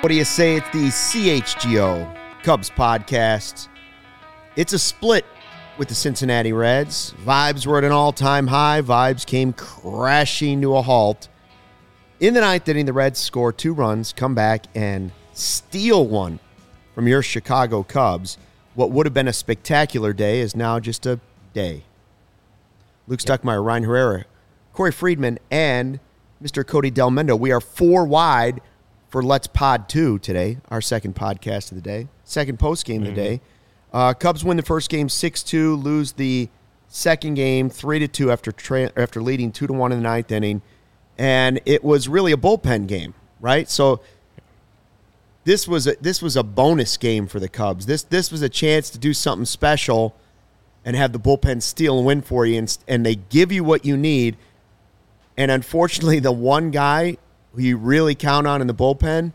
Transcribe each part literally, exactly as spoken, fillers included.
What do you say? It's the C H G O Cubs podcast. It's a split with the Cincinnati Reds. Vibes were at an all-time high. Vibes came crashing to a halt. In the ninth inning, the Reds score two runs, come back, and steal one from your Chicago Cubs. What would have been a spectacular day is now just a day. Luke yep. Stuckmeyer, Ryan Herrera, Corey Friedman, and Mister Cody Delmendo. We are four wide for Let's Pod two today, our second podcast of the day, second post-game mm-hmm. of the day. Uh, Cubs win the first game six two, lose the second game three to two after tra- after leading two to one in the ninth inning. And it was really a bullpen game, right? So this was a, this was a bonus game for the Cubs. This this was a chance to do something special and have the bullpen steal and win for you, and, and they give you what you need. And unfortunately, the one guy who you really count on in the bullpen,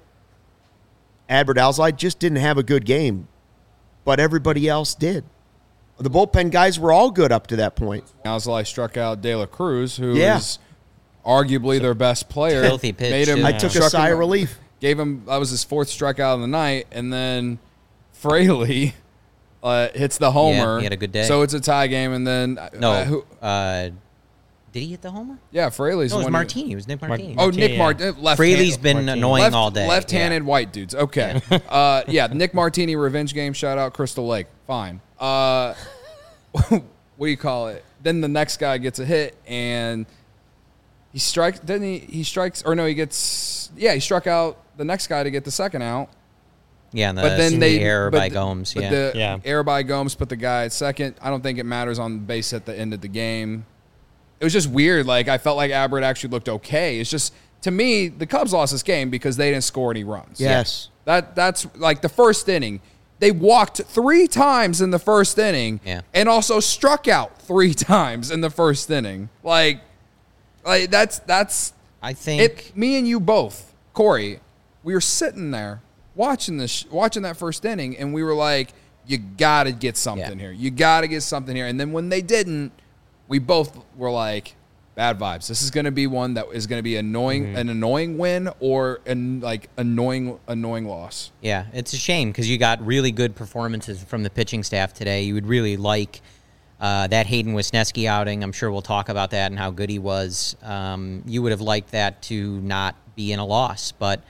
Adbert Alzolay, just didn't have a good game, but everybody else did. The bullpen guys were all good up to that point. Alzolay struck out De La Cruz, who yeah. is arguably so, their best player. Filthy pitch. Made him, yeah. I took a sigh him, of relief. Gave him, that was his fourth strikeout of the night, and then Fraley uh, hits the homer. Yeah, he had a good day. So it's a tie game, and then no, uh, who, uh, did he hit the homer? Yeah, Fraley's no, it was one. Martini. It was Nick Martini. Oh, Nick Martini. Yeah. Fraley's been Martini. annoying left, all day. Left-handed yeah. white dudes. Okay. Yeah. uh, yeah, Nick Martini revenge game. Shout out Crystal Lake. Fine. Uh, what do you call it? Then the next guy gets a hit, and he strikes. Didn't he? He strikes, or no? He gets. Yeah, he struck out the next guy to get the second out. Yeah, and the, but then they the error by the, Gomes. But yeah, the yeah. error by Gomes put the guy at second. I don't think it matters on base at the end of the game. It was just weird. Like, I felt like Adbert actually looked okay. It's just, to me, the Cubs lost this game because they didn't score any runs. Yes. That That's like the first inning. They walked three times in the first inning yeah. and also struck out three times in the first inning. Like, like that's, that's I think. It, me and you both, Corey, we were sitting there watching this, watching that first inning, and we were like, you got to get something yeah. here. You got to get something here. And then when they didn't, we both were like, bad vibes. This is going to be one that is going to be annoying, mm-hmm. an annoying win or an like annoying, annoying loss. Yeah, it's a shame because you got really good performances from the pitching staff today. You would really like uh, that Hayden Wisniewski outing. I'm sure we'll talk about that and how good he was. Um, you would have liked that to not be in a loss, but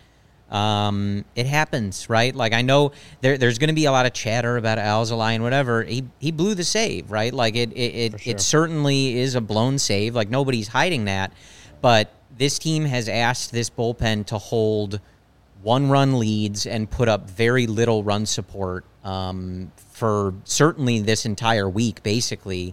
um, it happens, right? Like, I know there, there's going to be a lot of chatter about Alzolay and whatever. He he blew the save, right? Like, it it it, sure. it certainly is a blown save. Like, nobody's hiding that. But this team has asked this bullpen to hold one-run leads and put up very little run support um, for certainly this entire week, basically,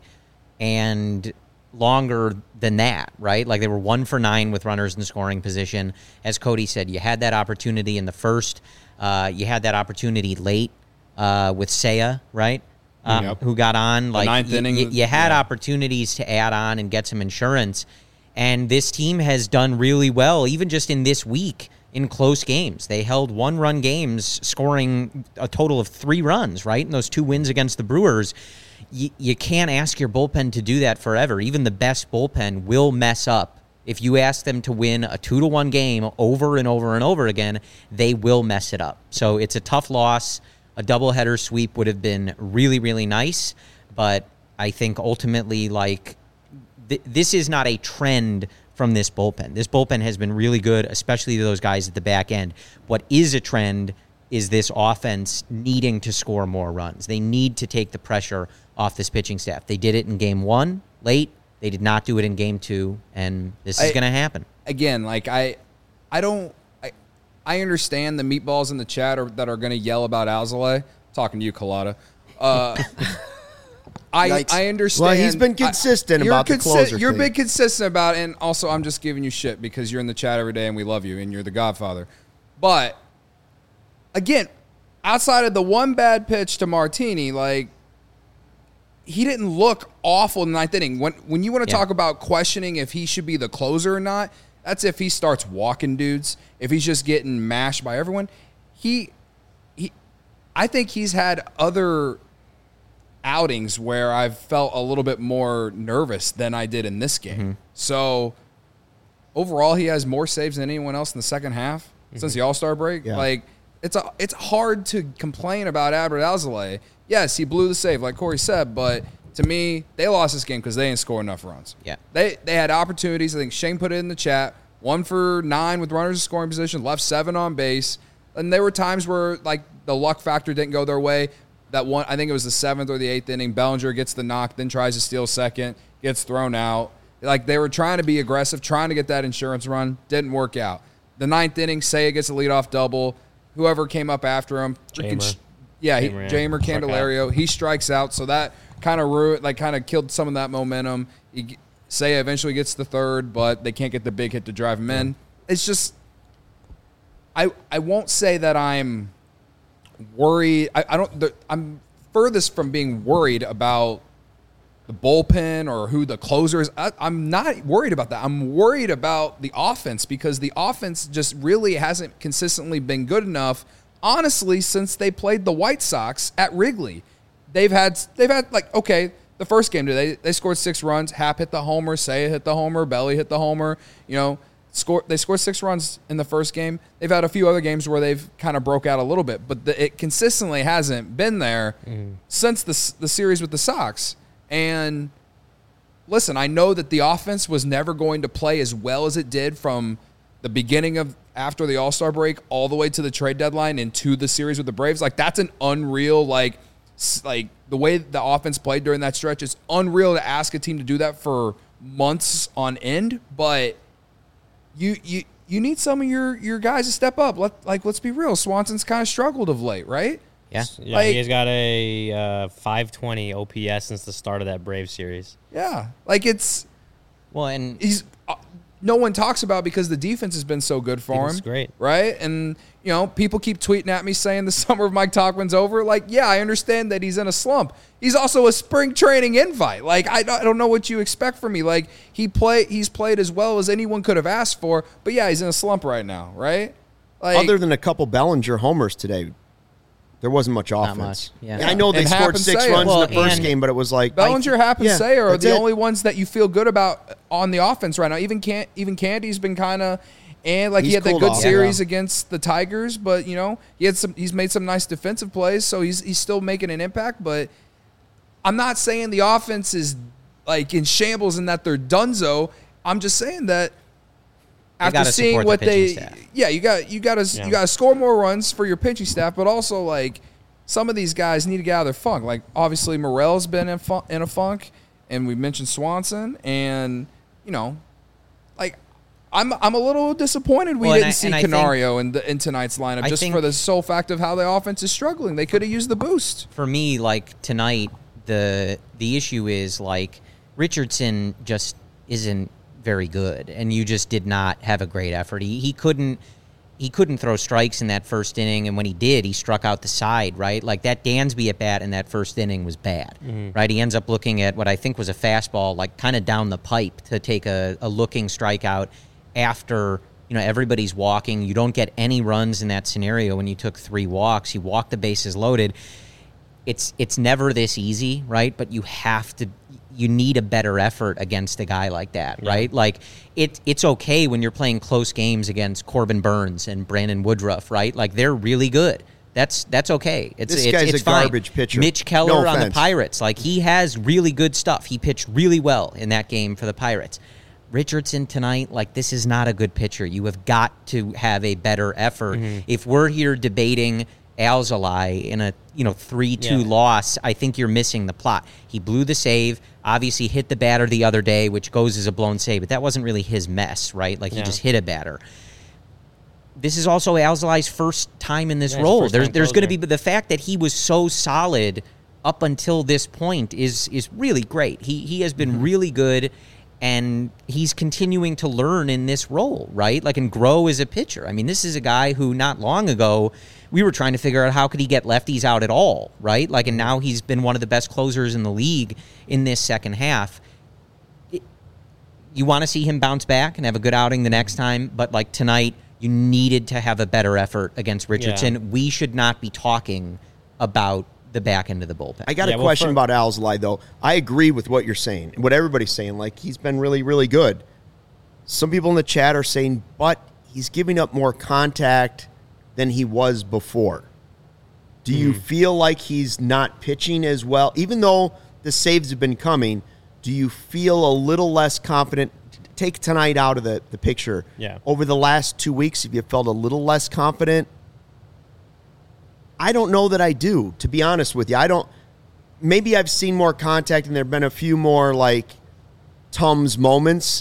and longer than that, right? Like, they were one for nine with runners in scoring position. As Cody said, you had that opportunity in the first. Uh, you had that opportunity late uh, with Seiya, right? Um, yep. Who got on. Like, ninth y- inning, y- you had yeah. opportunities to add on and get some insurance. And this team has done really well, even just in this week, in close games. They held one-run games, scoring a total of three runs, right? In those two wins against the Brewers. You, you can't ask your bullpen to do that forever. Even the best bullpen will mess up. If you ask them to win a two to one game over and over and over again, they will mess it up. So it's a tough loss. A doubleheader sweep would have been really, really nice. But I think ultimately, like, th- this is not a trend from this bullpen. This bullpen has been really good, especially those guys at the back end. What is a trend is this offense needing to score more runs. They need to take the pressure off this pitching staff. They did it in game one late. They did not do it in game two, and this is going to happen. Again, like I, I don't, I, I understand the meatballs in the chat are, that are going to yell about Alzolay. Talking to you, Colada. Uh, I I understand. Well, he's been consistent I, about the consi- closer You're thing. been consistent about it, and also I'm just giving you shit because you're in the chat every day and we love you and you're the Godfather. But again, outside of the one bad pitch to Martini, like, he didn't look awful in the ninth inning. When when you want to yeah. talk about questioning if he should be the closer or not, that's if he starts walking dudes. If he's just getting mashed by everyone, he he. I think he's had other outings where I've felt a little bit more nervous than I did in this game. Mm-hmm. So overall, he has more saves than anyone else in the second half mm-hmm. since the All-Star break. Yeah. Like, it's a, it's hard to complain about Adbert Alzolay. Yes, he blew the save, like Corey said, but to me, they lost this game because they didn't score enough runs. Yeah. They they had opportunities. I think Shane put it in the chat. One for nine with runners in scoring position, left seven on base. And there were times where, like, the luck factor didn't go their way. That one, I think it was the seventh or the eighth inning. Bellinger gets the knock, then tries to steal second, gets thrown out. Like, they were trying to be aggressive, trying to get that insurance run. Didn't work out. The ninth inning, Seiya gets a leadoff double. Whoever came up after him. Jamer. Yeah, he, Jamer, yeah. Jamer Candelario. He strikes out, so that kind of ruined, like, kind of killed some of that momentum. He, Seiya eventually gets the third, but they can't get the big hit to drive him in. It's just, I I won't say that I'm worried. I, I don't. The, I'm furthest from being worried about the bullpen or who the closer is. I, I'm not worried about that. I'm worried about the offense because the offense just really hasn't consistently been good enough. Honestly, since they played the White Sox at Wrigley, they've had they've had like okay. The first game, they they scored six runs. Happ hit the homer. Seiya hit the homer. Belly hit the homer. You know, score. They scored six runs in the first game. They've had a few other games where they've kind of broke out a little bit, but the, it consistently hasn't been there mm. since the the series with the Sox. And listen, I know that the offense was never going to play as well as it did from the beginning of after the All-Star break all the way to the trade deadline and to the series with the Braves. Like that's an unreal like. Like the way the offense played during that stretch, it's unreal to ask a team to do that for months on end. But you you you need some of your, your guys to step up. Let like let's be real, Swanson's kind of struggled of late, right? Yeah, yeah. Like, he's got a uh, five twenty O P S since the start of that Braves series. Yeah, like it's well, and he's uh, no one talks about because the defense has been so good for It's him. great, right? And you know, people keep tweeting at me saying the summer of Mike Tauchman's over. Like, yeah, I understand that he's in a slump. He's also a spring training invite. Like, I, I don't know what you expect from me. Like, he play he's played as well as anyone could have asked for. But yeah, he's in a slump right now, right? Like, Other than a couple Bellinger homers today, there wasn't much offense. much, yeah. I know they And Happ scored and six Seiya. runs Well, in the first and- game, but it was like Bellinger, Happ, and yeah, Seiya are that's the it. only ones that you feel good about on the offense right now. Even Can even Candy's been kind of and like He's he had that cooled good off. series Yeah. against the Tigers, but you know he had some. He's made some nice defensive plays, so he's he's still making an impact. But I'm not saying the offense is like in shambles and that they're donezo. I'm just saying that after gotta seeing support the what they, pitching staff. yeah, you got you got to Yeah. you got to score more runs for your pitching staff, but also like some of these guys need to get out of their funk. Like obviously Morel's been in fun, in a funk, and we mentioned Swanson, and you know, like I'm I'm a little disappointed we Well, and didn't I- see and I think- Canario in the in tonight's lineup I just think- for the sole fact of how the offense is struggling. They could have used the boost. for me, like tonight, the the issue is like Richardson just isn't very good, and you just did not have a great effort. He he couldn't he couldn't throw strikes in that first inning, and when he did, he struck out the side. Right, like that Dansby at bat in that first inning was bad. Mm-hmm. Right, he ends up looking at what I think was a fastball, like kind of down the pipe to take a, a looking strikeout after. You know, everybody's walking. You don't get any runs in that scenario when you took three walks. You walk the bases loaded. It's it's never this easy, right? But you have to, you need a better effort against a guy like that, Yeah. right? Like it it's okay when you're playing close games against Corbin Burns and Brandon Woodruff, right? Like they're really good. That's that's okay. It's This it's, guy's it's a fine. garbage pitcher. Mitch Keller No on the offense. Pirates, like he has really good stuff. He pitched really well in that game for the Pirates. Richardson tonight, like this is not a good pitcher. You have got to have a better effort. Mm-hmm. If we're here debating Alzolay in a you know three two Yeah. loss, I think you're missing the plot. He blew the save, obviously hit the batter the other day, which goes as a blown save, but that wasn't really his mess, right? Like he Yeah. just hit a batter. This is also Alzolay's first time in this Yeah, his role. first There's time there's going to closer. be the fact that he was so solid up until this point is is really great. He he has been really good. And he's continuing to learn in this role, right? Like, and grow as a pitcher. I mean, this is a guy who not long ago we were trying to figure out how could he get lefties out at all, right? Like, and now he's been one of the best closers in the league in this second half. It, you want to see him bounce back and have a good outing the next time, but like tonight, you needed to have a better effort against Richardson. Yeah. We should not be talking about the back end of the bullpen. I got Yeah, a well, question for- about Alzolay, though. I agree with what you're saying, what everybody's saying. Like, he's been really, really good. Some people in the chat are saying, but he's giving up more contact than he was before. Do you Mm. feel like he's not pitching as well? Even though the saves have been coming, do you feel a little less confident? Take tonight out of the, the picture. Yeah. Over the last two weeks, have you felt a little less confident? I don't know that I do, to be honest with you. I don't. Maybe I've seen more contact and there have been a few more, like, Tums moments.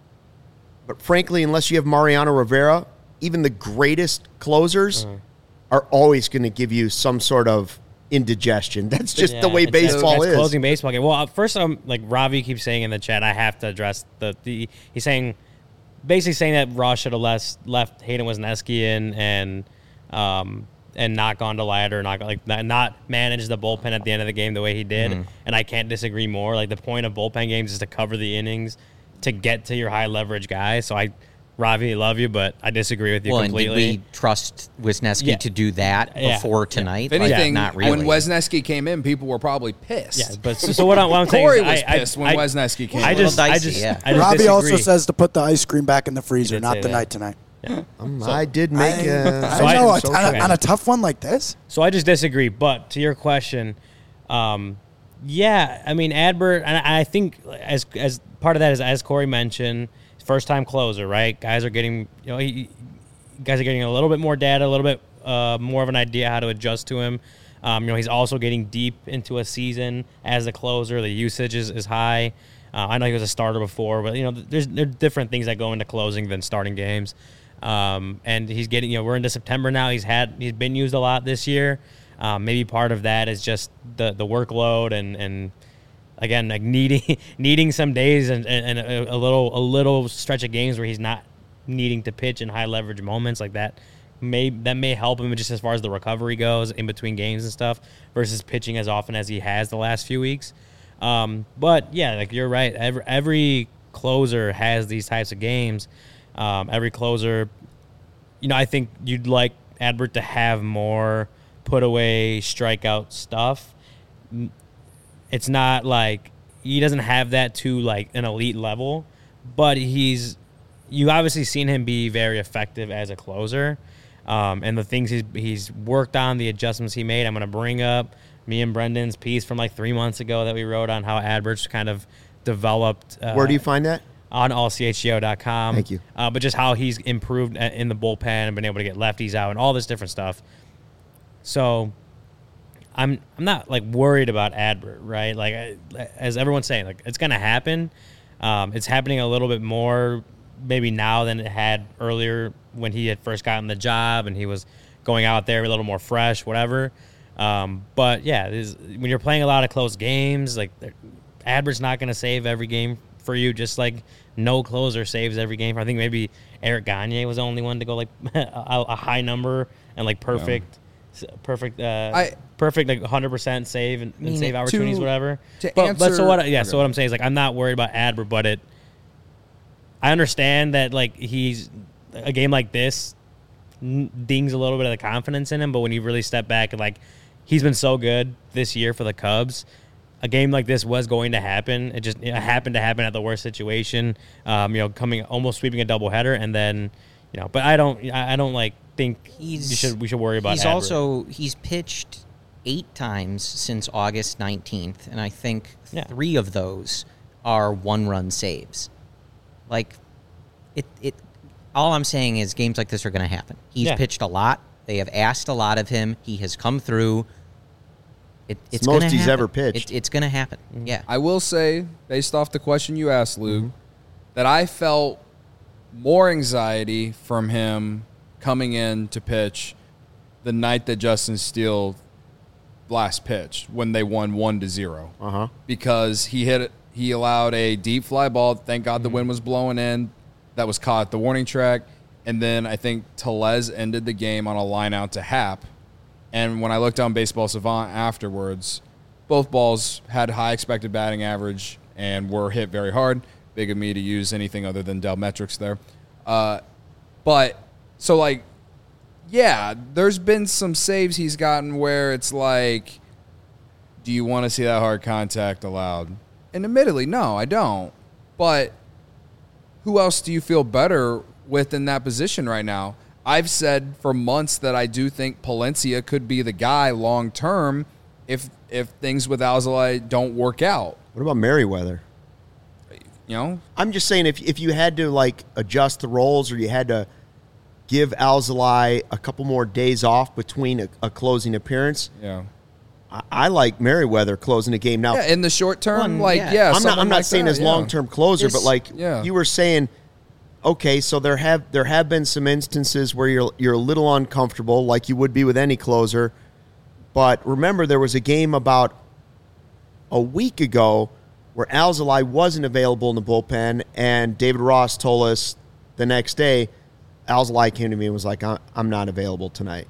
But frankly, unless you have Mariano Rivera, even the greatest closers Uh-huh. are always going to give you some sort of indigestion. That's just the Yeah, way it's- baseball it's is. Closing baseball game. Well, uh, first, um, like Ravi keeps saying in the chat, I have to address the, the he's saying, basically saying that Ross should have left, left Hayden Wesneski in and um, and not gone to ladder, not like not, not manage the bullpen at the end of the game the way he did. Mm-hmm. And I can't disagree more. Like the point of bullpen games is to cover the innings to get to your high leverage guy. So I, Ravi, love you, but I disagree with you Well, completely. and did we trust Wisniewski Yeah. to do that Yeah. before Yeah. tonight? If anything, Like, not really. when Wesneski came in, people were probably pissed. yeah, but so, so what, I, what I'm saying Corey is was I, pissed I, when I, Wesneski came I in. just, A little I dicey, just, yeah. I just Robbie disagree. also says to put the ice cream back in the freezer, did not say the that. night tonight. Um, I did make I, a. I So I- know, social- on, a, on a tough one like this. So I just disagree. But to your question, um, yeah, I mean Adbert, and I I think as as part of that is as Corey mentioned, first time closer, right? Guys are getting you know he, guys are getting a little bit more data, a little bit uh, more of an idea how to adjust to him. Um, you know, he's also getting deep into a season as a closer. The usage is, is high. Uh, I know he was a starter before, but you know, there's there are different things that go into closing than starting games. Um, and he's getting, you know, we're into September now. He's had, he's been used a lot this year. Um, maybe part of that is just the, the workload and, and again, like needing, needing some days and, and, and a, a little, a little stretch of games where he's not needing to pitch in high leverage moments like that. May, that may help him just as far as the recovery goes in between games and stuff versus pitching as often as he has the last few weeks. Um, but yeah, like you're right. Every, every closer has these types of games. Um, every closer, you know, I think you'd like Adbert to have more put away strikeout stuff. It's not like he doesn't have that to like an elite level, but he's, you obviously seen him be very effective as a closer. Um, and the things he's, he's worked on, the adjustments he made, I'm going to bring up me and Brendan's piece from like three months ago that we wrote on how Adbert's kind of developed. Uh, Where do you find that? on all c h g o dot com. Thank you. Uh, but just how he's improved in the bullpen and been able to get lefties out and all this different stuff. So I'm I'm not like worried about Adbert, right? Like I, as everyone's saying, like it's gonna happen. Um, it's happening a little bit more maybe now than it had earlier when he had first gotten the job and he was going out there a little more fresh, whatever. Um, but yeah, this, when you're playing a lot of close games, like Adbert's not gonna save every game for you, just like no closer saves every game. I think maybe Eric Gagne was the only one to go like a, a high number and like perfect, s- perfect, uh, I- perfect like one hundred percent save and, and mean, save to- opportunities, whatever. to but, but so answer- what? Yeah. Okay. So what I'm saying is like I'm not worried about Adbert, but it. I understand that like he's a game like this n- dings a little bit of the confidence in him, but when you really step back and like he's been so good this year for the Cubs. A game like this was going to happen. It just it happened to happen at the worst situation. Um, you know, coming almost sweeping a doubleheader, and then, you know. But I don't, I I don't like think He's- you should we should worry about. He's Adbert. also he's pitched eight times since August nineteenth, and I think Yeah. three of those are one-run saves. Like, it it. All I'm saying is games like this are going to happen. He's Yeah. pitched a lot. They have asked a lot of him. He has come through. It, it's most gonna he's happen. ever pitched. It, it's going to happen. Yeah. I will say, based off the question you asked, Luke, Mm-hmm. that I felt more anxiety from him coming in to pitch the night that Justin Steele last pitched when they won one to zero. Uh huh. Because he hit he allowed a deep fly ball. Thank God the wind was blowing in. That was caught at the warning track. And then I think Tellez ended the game on a line out to Happ. And when I looked on Baseball Savant afterwards, both balls had high expected batting average and were hit very hard. Big of me to use anything other than Dell metrics there. Uh, but, so like, yeah, there's been some saves he's gotten where it's like, do you want to see that hard contact allowed? And admittedly, no, I don't. But who else do you feel better with in that position right now? I've said for months that I do think Palencia could be the guy long term if if things with Alzolay don't work out. What about Merriweather? You know, I'm just saying if if you had to like adjust the roles or you had to give Alzolay a couple more days off between a, a closing appearance, yeah. I, I like Merriweather closing a game now. Yeah, in the short term, Well, like yeah. yeah, I'm not. someone I'm not like saying that, as yeah. long term closer, It's- but like yeah. you were saying, okay, so there have there have been some instances where you're you're a little uncomfortable, like you would be with any closer. But remember, there was a game about a week ago where Alzolay wasn't available in the bullpen, and David Ross told us the next day, Alzolay came to me and was like, "I'm not available tonight."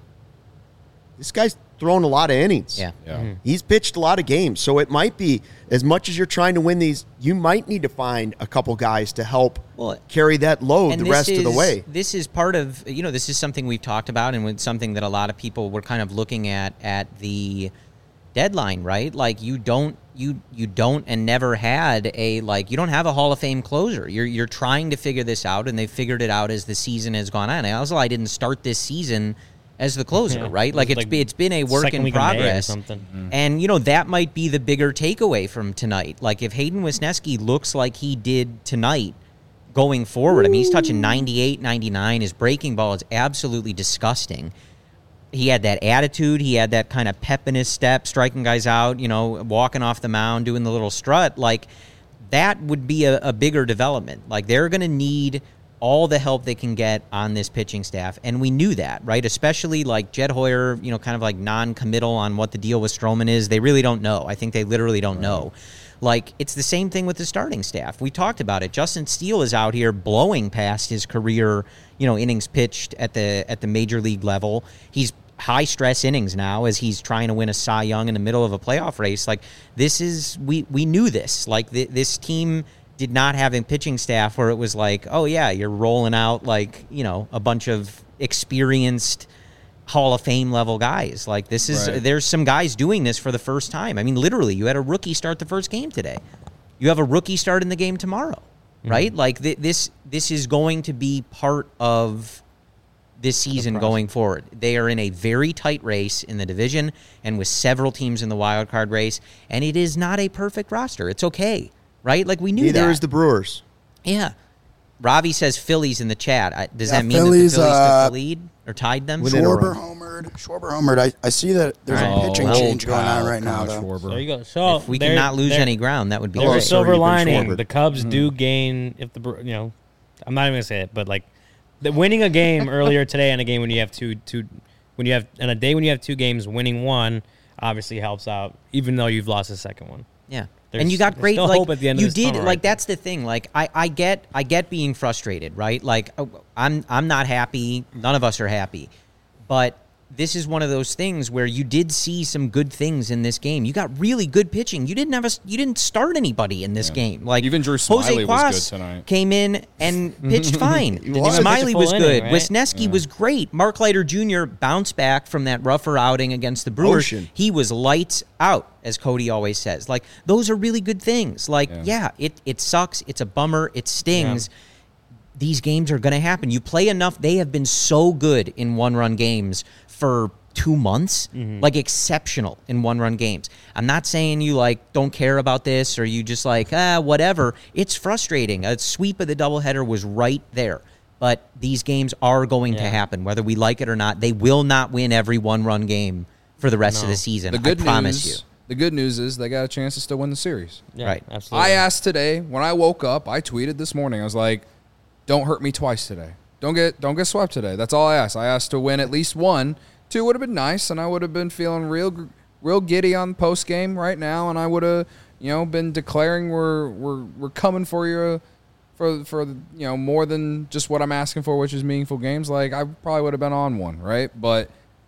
This guy's thrown a lot of innings. Yeah. Yeah. He's pitched a lot of games. So it might be, as much as you're trying to win these, you might need to find a couple guys to help Well, carry that load And the this rest of the is- way. This is part of, you know, this is something we've talked about and it's something that a lot of people were kind of looking at at the deadline, right? Like you don't you you don't and never had a like you don't have a Hall of Fame closer. You're you're trying to figure this out and they figured it out as the season has gone on. Alzolay didn't start this season as the closer, Yeah. right? Like It it's was like be- it's been a work second in week of May or progress. something. And you know that might be the bigger takeaway from tonight. Like if Hayden Wisniewski looks like he did tonight going forward, I mean he's touching ninety-eight, ninety-nine. His breaking ball is absolutely disgusting. He had that attitude. He had that kind of pep in his step, striking guys out, you know, walking off the mound, doing the little strut. Like that would be a, a bigger development. Like they're going to need all the help they can get on this pitching staff. And we knew that, right? Especially like Jed Hoyer, you know, kind of like non-committal on what the deal with Stroman is. They really don't know. I think they literally don't know. Like, it's the same thing with the starting staff. We talked about it. Justin Steele is out here blowing past his career, you know, innings pitched at the at the major league level. He's high stress innings now as he's trying to win a Cy Young in the middle of a playoff race. Like, this is, we, we knew this. Like, th- this team did not have a pitching staff where it was like, oh, yeah, you're rolling out, like, you know, a bunch of experienced Hall of Fame level guys. Like, this is, Right. there's some guys doing this for the first time. I mean, literally, you had a rookie start the first game today. You have a rookie start in the game tomorrow, right? Like, th- this this is going to be part of this season going forward. They are in a very tight race in the division and with several teams in the wild card race, and it is not a perfect roster. It's okay, right? Like, we knew Neither that. is the Brewers. Yeah. Ravi says Phillies in the chat. I- Does Yeah, that mean Phillies, that the Phillies uh, took the lead or tied them? Within a Schwarber run. homered. Schwarber homered. I, I see that there's All right. a pitching Oh, change going cow, on right now, Kyle though. Schwarber. There you go. So If we there- cannot lose there- any ground, that would be There's a great. silver Sorry, you've been lining. Schwarbered. The Cubs do gain if the Bre- you know, I'm not even gonna say it, but like the winning a game earlier today and a game when you have two two when you have and a day when you have two games, winning one obviously helps out, even though you've lost the second one. Yeah. There's- and you got there's great still like hope at the end of you this did tunnel, like right? that's the thing. Like I, I get I get being frustrated, right? Like oh, I'm I'm not happy. None of us are happy. But this is one of those things where you did see some good things in this game. You got really good pitching. You didn't have a, you didn't start anybody in this game. Like Even Drew Jose Smiley was good Quas tonight. came in and pitched fine. was. Smiley Pitched a was full good. inning, right? Wisniewski was great. Mark Leiter Junior bounced back from that rougher outing against the Brewers. Ocean. He was lights out, as Cody always says. Like, those are really good things. Like, yeah, Yeah. it, it sucks. It's a bummer. It stings. These games are going to happen. You play enough. They have been so good in one-run games for two months, like exceptional in one-run games. I'm not saying you, like, don't care about this or you just, like, ah, whatever. It's frustrating. A sweep of the doubleheader was right there. But these games are going to Yeah. happen, whether we like it or not. They will not win every one-run game for the rest of No. the season. The good I promise news, you. The good news is they got a chance to still win the series. Yeah, Right. Absolutely. I asked today when I woke up. I tweeted this morning. I was like, "Don't hurt me twice today. Don't get don't get swept today." That's all I asked. I asked to win at least one. Two would have been nice, and I would have been feeling real gr- real giddy on post game right now, and I would have you know been declaring we're we're we're coming for you. For, for you know more than just what I'm asking for, which is meaningful games. Like I probably would have been on one, right? But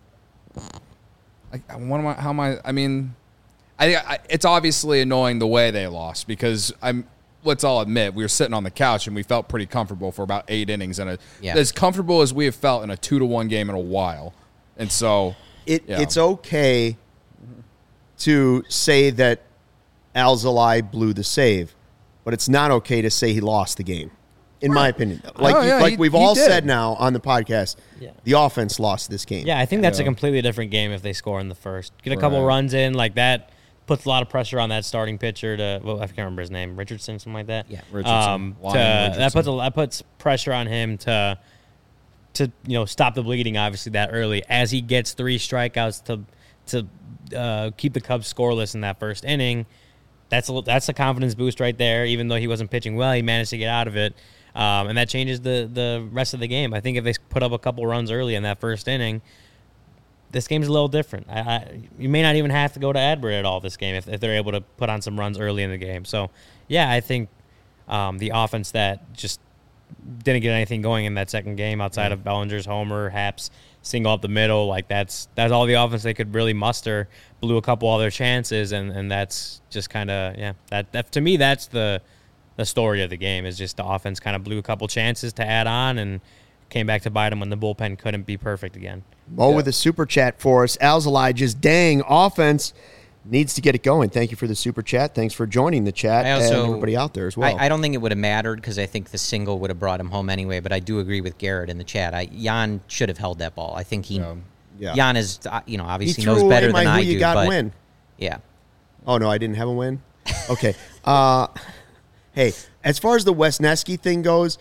I, I what am I? How am I? I mean, I, I it's obviously annoying the way they lost because I'm. Let's all admit we were sitting on the couch and we felt pretty comfortable for about eight innings and a, Yeah. as comfortable as we have felt in a two to one game in a while. And so It Yeah. It's okay to say that Alzolay blew the save, but it's not okay to say he lost the game. in my opinion. Like Oh, you- yeah, like he- we've he all did. said now on the podcast, Yeah. the offense lost this game. Yeah, I think that's a Yeah. completely different game if they score in the first. Get a couple Right. runs in, like that puts a lot of pressure on that starting pitcher to, well, I can't remember his name, Richardson, something like that. Yeah. Richardson. Um, to, Lion that Richardson. puts a, that puts pressure on him to to you know stop the bleeding obviously that early as he gets three strikeouts to to uh, keep the Cubs scoreless in that first inning. That's a that's a confidence boost right there. Even though he wasn't pitching well, he managed to get out of it, um, and that changes the the rest of the game. I think if they put up a couple runs early in that first inning, this game's a little different. I, I, you may not even have to go to Adbert at all this game if, if they're able to put on some runs early in the game. So, yeah, I think um, the offense that just didn't get anything going in that second game outside of Bellinger's homer, Haps single up the middle, like that's that's all the offense they could really muster. Blew a couple other chances, and, and that's just kind of yeah. That, that to me, that's the the story of the game is just the offense kind of blew a couple chances to add on and came back to bite them when the bullpen couldn't be perfect again. Mo with a super chat for us. Al's Elijah's dang offense needs to get it going. Thank you for the super chat. Thanks for joining the chat I also, and everybody out there as well. I, I don't think it would have mattered because I think the single would have brought him home anyway. But I do agree with Garrett in the chat. I, Jan should have held that ball. I think he, Yeah. Yeah. Jan is, uh, you know, he obviously threw knows away better my than who I you do. got but win. yeah, Oh, no, I didn't have a win? Okay. uh, hey, as far as the Wesneski thing goes,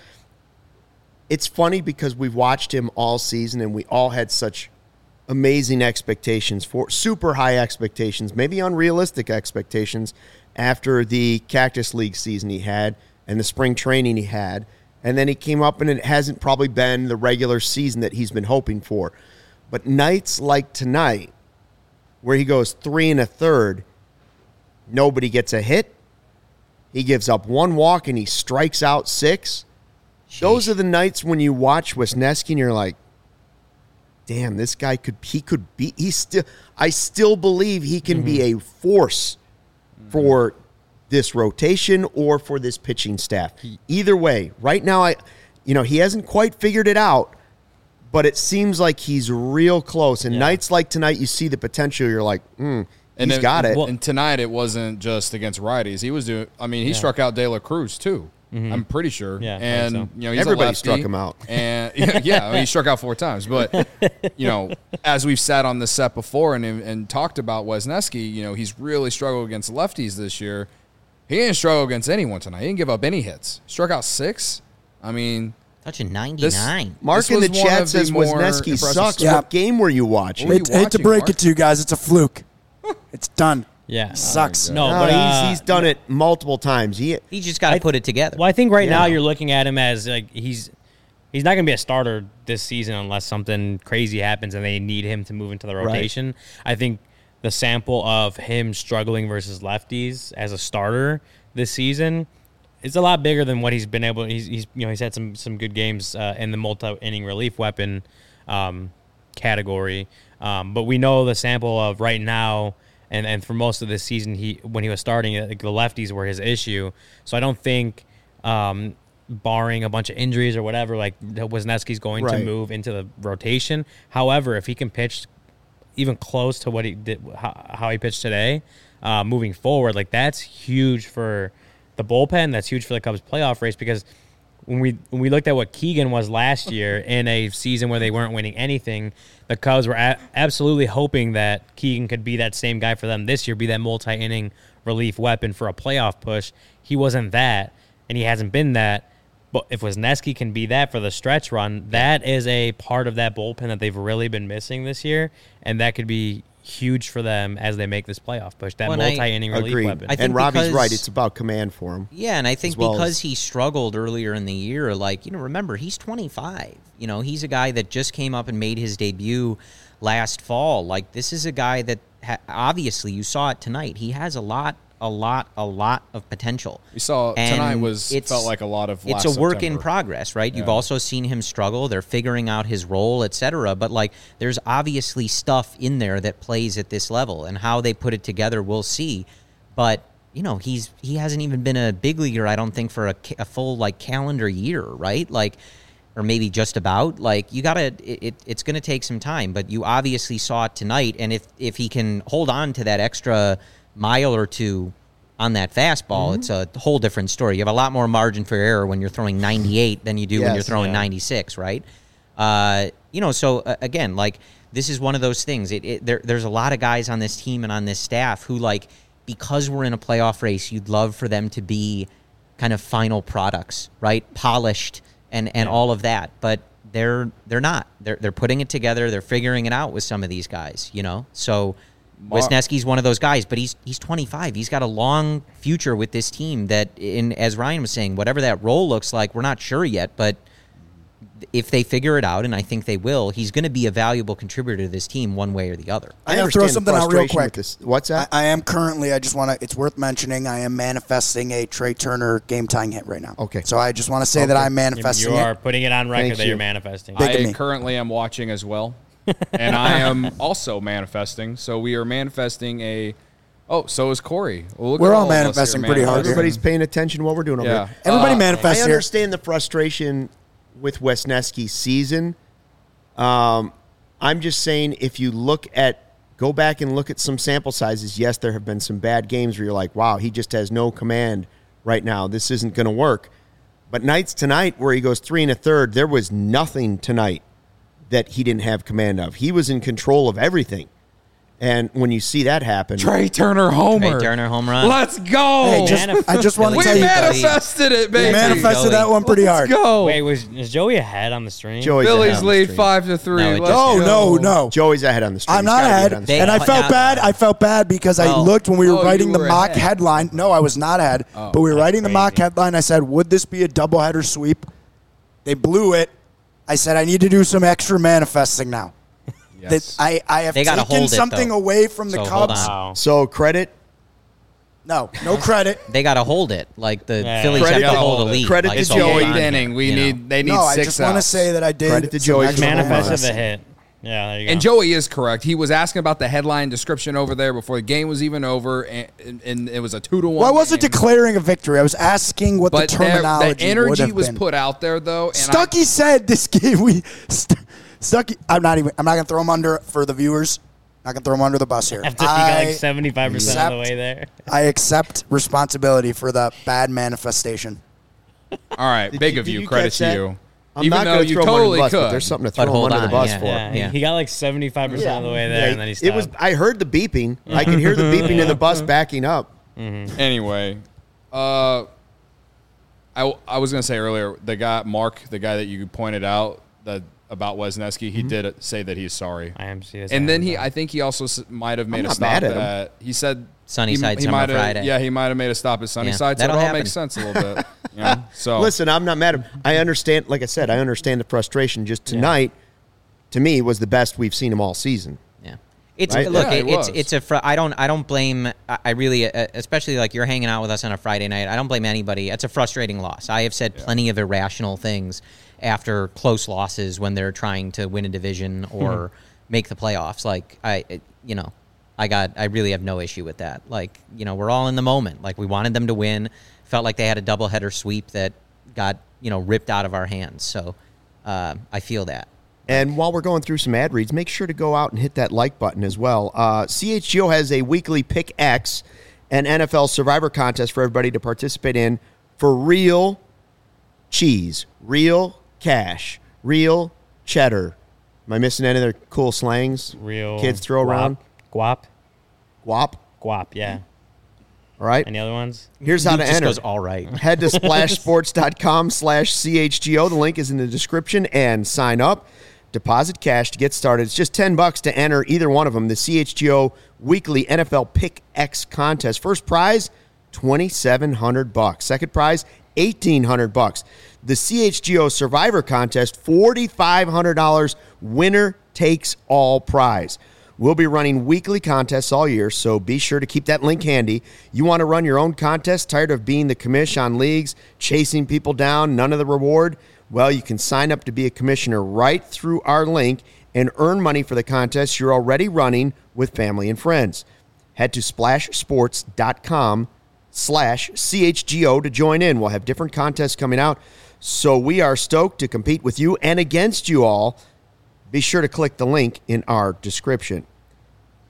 it's funny because we've watched him all season and we all had such amazing expectations for super high expectations, maybe unrealistic expectations after the Cactus League season he had and the spring training he had. And then he came up and it hasn't probably been the regular season that he's been hoping for. But nights like tonight, where he goes three and a third, nobody gets a hit. He gives up one walk and he strikes out six. Those are the nights when you watch Wesneski and you're like, damn, this guy could, he could be, he still, I still believe he can be a force for this rotation or for this pitching staff. Either way, right now, I, you know, he hasn't quite figured it out, but it seems like he's real close. And Yeah. nights like tonight, you see the potential. You're like, mm, And he's then- got it. And tonight it wasn't just against righties. He was doing. I mean, he Yeah. struck out De La Cruz too. I'm pretty sure. Yeah, I think and so. you know, he's Everybody a lefty, struck him out. And yeah, I mean, he struck out four times. But you know, as we've sat on this set before and and talked about Wesneski, you know, he's really struggled against lefties this year. He didn't struggle against anyone tonight. He didn't give up any hits. Struck out six. I mean, touching ninety-nine. Mark this in the was one chat of the says more Wesneski impressive sucks. Yeah. What game were you watching? What were Hate, you hate to watching, break Mark? it to you guys. It's a fluke. It's done. Yeah. Sucks. Oh, No, No, but he's, uh, he's done it multiple times. He He just got to I- put it together. Well, I think right now Yeah. you're looking at him as like he's he's not going to be a starter this season unless something crazy happens and they need him to move into the rotation. I think the sample of him struggling versus lefties as a starter this season is a lot bigger than what he's been able. He's, he's you know he's had some some good games uh, in the multi-inning relief weapon um, category, um, but we know the sample of right now. And and for most of this season, he when he was starting, like, the lefties were his issue. So I don't think, um, barring a bunch of injuries or whatever, like Wesneski's going Right. to move into the rotation. However, if he can pitch even close to what he did, how, how he pitched today, uh, moving forward, like that's huge for the bullpen. That's huge for the Cubs' playoff race because when we when we looked at what Keegan was last year in a season where they weren't winning anything, the Cubs were a- absolutely hoping that Keegan could be that same guy for them this year, be that multi-inning relief weapon for a playoff push. He wasn't that, and he hasn't been that. But if Wesneski can be that for the stretch run, that is a part of that bullpen that they've really been missing this year, and that could be huge for them as they make this playoff push. That Well, and I multi-inning relief Agreed. weapon. I think and Robbie's because- right. It's about command for him. Yeah, and I think as well because as- he struggled earlier in the year, like, you know, remember, he's twenty-five. You know, he's a guy that just came up and made his debut last fall. Like, this is a guy that ha- obviously you saw it tonight. He has a lot, a lot, a lot of potential. we saw And tonight was it's- felt like a lot of. It's last a work in September. progress, right? You've Yeah. also seen him struggle. They're figuring out his role, et cetera. But, like, there's obviously stuff in there that plays at this level, and how they put it together, we'll see. But, you know, he's he hasn't even been a big leaguer, I don't think, for a, ca- a full, like, calendar year, right? Like, or maybe just about. Like, you got to it, it, it's going to take some time. But you obviously saw it tonight, and if, if he can hold on to that extra mile or two on that fastball, Mm-hmm. it's a whole different story. You have a lot more margin for error when you're throwing ninety-eight than you do when Yes. you're throwing Yeah. ninety-six, right? Uh, you know, so uh, again, like this is one of those things. It, it there, there's a lot of guys on this team and on this staff who, like, because we're in a playoff race, you'd love for them to be kind of final products, right? Polished and, and all of that, but they're they're not. They're they're putting it together. They're figuring it out with some of these guys, you know. So Mar- Wisniewski's one of those guys, but he's he's twenty-five. He's got a long future with this team. That, in as Ryan was saying, whatever that role looks like, we're not sure yet, but if they figure it out, and I think they will, he's going to be a valuable contributor to this team one way or the other. I gotta understand throw the something out real frustration quick. with this. What's I, that? I am currently, I just want to, it's worth mentioning, I am manifesting a Trey Turner game tying hit right now. Okay. So I just want to say that Okay. I'm You, manifesting you are it. putting it on record Thank that you. you're manifesting. Big- Look at I me. currently am watching as well, and I am also manifesting. So we are manifesting a. Oh, so is Corey. Well, look We're at all of us here manifesting pretty hard here. Everybody's paying attention to what we're doing over Yeah. here. Everybody Uh, manifests I here. understand the frustration with Wisniewski's season. Um, I'm just saying, if you look at, go back and look at some sample sizes, yes, there have been some bad games where you're like, wow, he just has no command right now. This isn't going to work. But nights tonight where he goes three and a third, there was nothing tonight that he didn't have command of. He was in control of everything. And when you see that happen, Trey Turner homer. Trey Turner home run. Let's go. Hey, just, I just want to we tell you guys, manifested it, baby. we manifested that one pretty hard. Let's go. Wait, was is Joey ahead on the stream? Joey's ahead Phillies on the lead stream. five to three. No, it Let's just- No, go. no, no. Joey's ahead on the stream. I'm He's not gotta be ahead, on the They- and I but felt now- bad. I felt bad because I Oh. looked when we were Oh, writing you the were mock ahead. headline. No, I was not ahead, but we were writing the mock crazy. headline. I said, "Would this be a doubleheader sweep?" They blew it. I said, "I need to do some extra manifesting now." Yes. That I, I have They gotta taken hold it, something though. away from the So, hold Cubs. on. Wow. So credit No, no credit. They got to hold it. Like the Yeah. Phillies Credit have to to- hold a lead. credit like, to It's so the Joey. hold eighth on inning. here, We you know. need. They need No, I six just want to outs. say that I did. Credit to some Joey for extra the home run. Manifested the manifesting. hit. Yeah, there you go. And Joey is correct. He was asking about the headline description over there before the game was even over, and, and, and it was a two to one. Well, I wasn't game. declaring a victory. I was asking what But the there- terminology the energy would have was been. put out there, though. And Stuckey said this game. We St- Stuckey. I'm not even. I'm not gonna throw him under for the viewers. Not gonna throw him under the bus here. After he got I, like seventy-five percent of the way there. I accept responsibility for the bad manifestation. I, all right, Did big you- of did you. you Credit catch to that? you. I'm Even not though going to you throw him under totally the bus, could. but there's something to But throw him hold under the on, bus yeah. for. Yeah, Yeah. he got like seventy-five percent of the way there, Yeah, and then he it stopped. was. I heard the beeping. I could hear the beeping in the bus backing up. Anyway, uh, I, I was gonna say earlier, the guy Mark, the guy that you pointed out that about Wisniewski, he did say that he's sorry. I am serious. And then he, I think he also s- might have made I'm a not stop mad at him. at. He said Sunnyside he, he Summer might have- Friday. Yeah, he might have made a stop at Sunnyside. so it that'll all happen. makes sense a little bit. You know? So Listen, I'm not mad at him. I understand. Like I said, I understand the frustration. Just tonight, to me, was the best we've seen him all season. Yeah. It's Right? look. Yeah, it, it it's was. it's a. Fr- I don't. I don't blame. I I really, uh, especially like you're hanging out with us on a Friday night. I don't blame anybody. It's a frustrating loss. I have said plenty of irrational things after close losses when they're trying to win a division or make the playoffs. Like I, it- you know, I got. I really have no issue with that. Like you know, we're all in the moment. Like we wanted them to win. Felt like they had a doubleheader sweep that got you know ripped out of our hands. So uh, I feel that. And while we're going through some ad reads, make sure to go out and hit that like button as well. Uh, C H G O has a weekly Pick X and N F L Survivor contest for everybody to participate in for real cheese, real cash, real cheddar. Am I missing any other cool slangs real kids throw guap, around? Guap, Guap. guap. Yeah. All right. Any other ones? Here's how Luke to just enter. goes all right. Head to splashsports.com slash CHGO. The link is in the description and sign up. Deposit cash to get started. It's just ten bucks to enter either one of them. The C H G O weekly N F L Pick X contest. First prize, twenty-seven hundred bucks. Second prize, eighteen hundred bucks. The C H G O Survivor contest, forty-five hundred dollars. Winner takes all prize. We'll be running weekly contests all year, so be sure to keep that link handy. You want to run your own contest? Tired of being the commish on leagues, chasing people down, none of the reward? Well, you can sign up to be a commissioner right through our link and earn money for the contest you're already running with family and friends. Head to splashsports.com slash CHGO to join in. We'll have different contests coming out, so we are stoked to compete with you and against you all. Be sure to click the link in our description.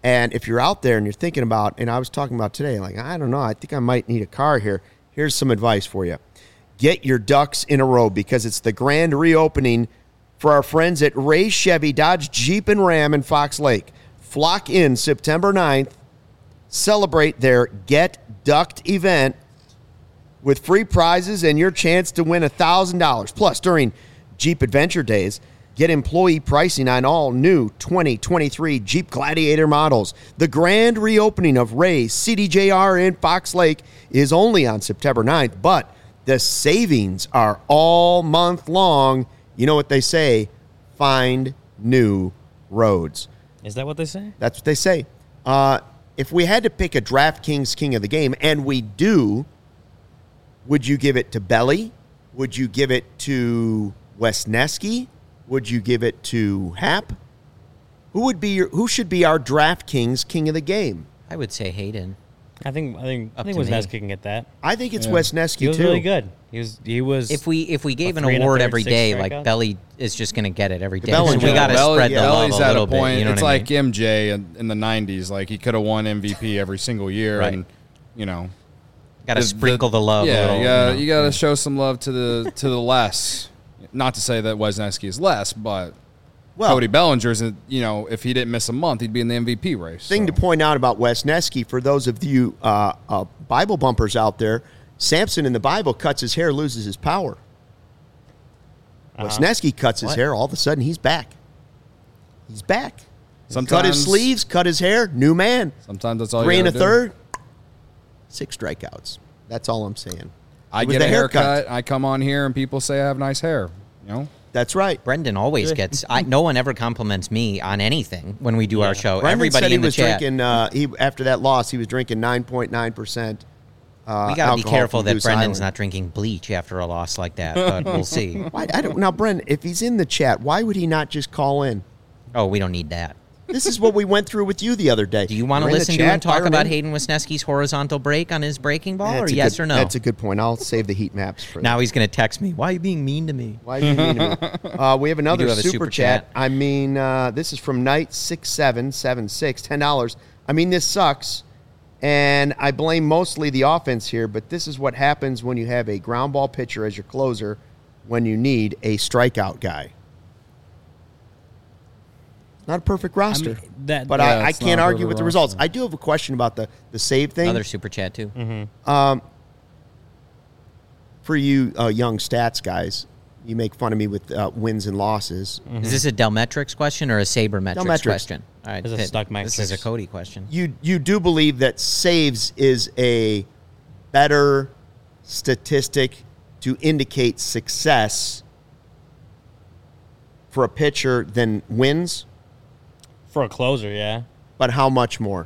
And if you're out there and you're thinking about, and I was talking about today, like, I don't know, I think I might need a car here. Here's some advice for you. Get your ducks in a row because it's the grand reopening for our friends at Ray Chevy, Dodge, Jeep, and Ram in Fox Lake. Flock in September ninth. Celebrate their Get Ducked event with free prizes and your chance to win one thousand dollars. Plus, during Jeep Adventure Days, get employee pricing on all new twenty twenty-three Jeep Gladiator models. The grand reopening of Ray's C D J R in Fox Lake is only on September ninth, but the savings are all month long. You know what they say, find new roads. Is that what they say? That's what they say. Uh, if we had to pick a DraftKings king of the game, and we do, would you give it to Belly? Would you give it to Wesneski? Would you give it to Hap? Who would be your, who should be our DraftKings king of the game? I would say Hayden. I think I think I Up think to me. Wisniewski can get that. I think it's Yeah. Wesneski He was too. really good. He was he was If we if we gave a an three and a award third, every six day, like strikeouts. Belly is just going to get it every day. Bellinger. So we got to Belly- spread the yeah, love Belly's a at little a point. bit. You know it's what I like mean? M J in, in the nineties. Like he could have won M V P every single year, Right. and you know, Got to the- sprinkle the, love. Yeah, a little, you got you know. you got to show some love to the to the less. Not to say that Wesneski is less, but Well, Cody Bellinger's, you know, if he didn't miss a month, he'd be in the M V P race. thing so. to point out about Wesneski, for those of you uh, uh, Bible bumpers out there, Samson in the Bible cuts his hair, loses his power. Uh-huh. Wesneski cuts his What? hair, all of a sudden he's back. He's back. Cut Sometimes his sleeves, cut his hair, new man. Sometimes that's all Three you and a gotta do. third, six strikeouts. That's all I'm saying. I It was get the a haircut. I come on here and people say I have nice hair. You know, That's right. Brendan always gets. I, no one ever compliments me on anything when we do our show. Brendan Everybody said he in the was chat. drinking. Uh, he after that loss, he was drinking nine point nine percent. Uh, we got to be alcohol careful from that Goose Brendan's Island. not drinking bleach after a loss like that, but we'll see. Why, I don't now, Brendan. If he's in the chat, why would he not just call in? Oh, we don't need that. This is what we went through with you the other day. Do you want to You're in the listen to chat, him talk fire about in. Hayden Wisniewski's horizontal break on his breaking ball, That's or a yes good- or no? That's a good point. I'll save the heat maps for now that. he's going to text me. Why are you being mean to me? Why do you mean to me? Uh, we have another do have a super, super chat. chat. I mean, uh, this is from Night six seven seven six, ten dollars. I mean, this sucks, and I blame mostly the offense here, but this is what happens when you have a ground ball pitcher as your closer when you need a strikeout guy. Not a perfect roster, mean, that- but Yeah, I, I it's can't not a argue perfect with the results. roster. I do have a question about the, the save thing. Another super chat too. Um, for you uh, young stats guys, you make fun of me with uh, wins and losses. Is this a Delmetrics question or a Sabermetrics Delmetrics. question? All right, This is a Pitt, Stuck This is a metrics. Cody question. You you do believe that saves is a better statistic to indicate success for a pitcher than wins, for a closer, yeah. but how much more?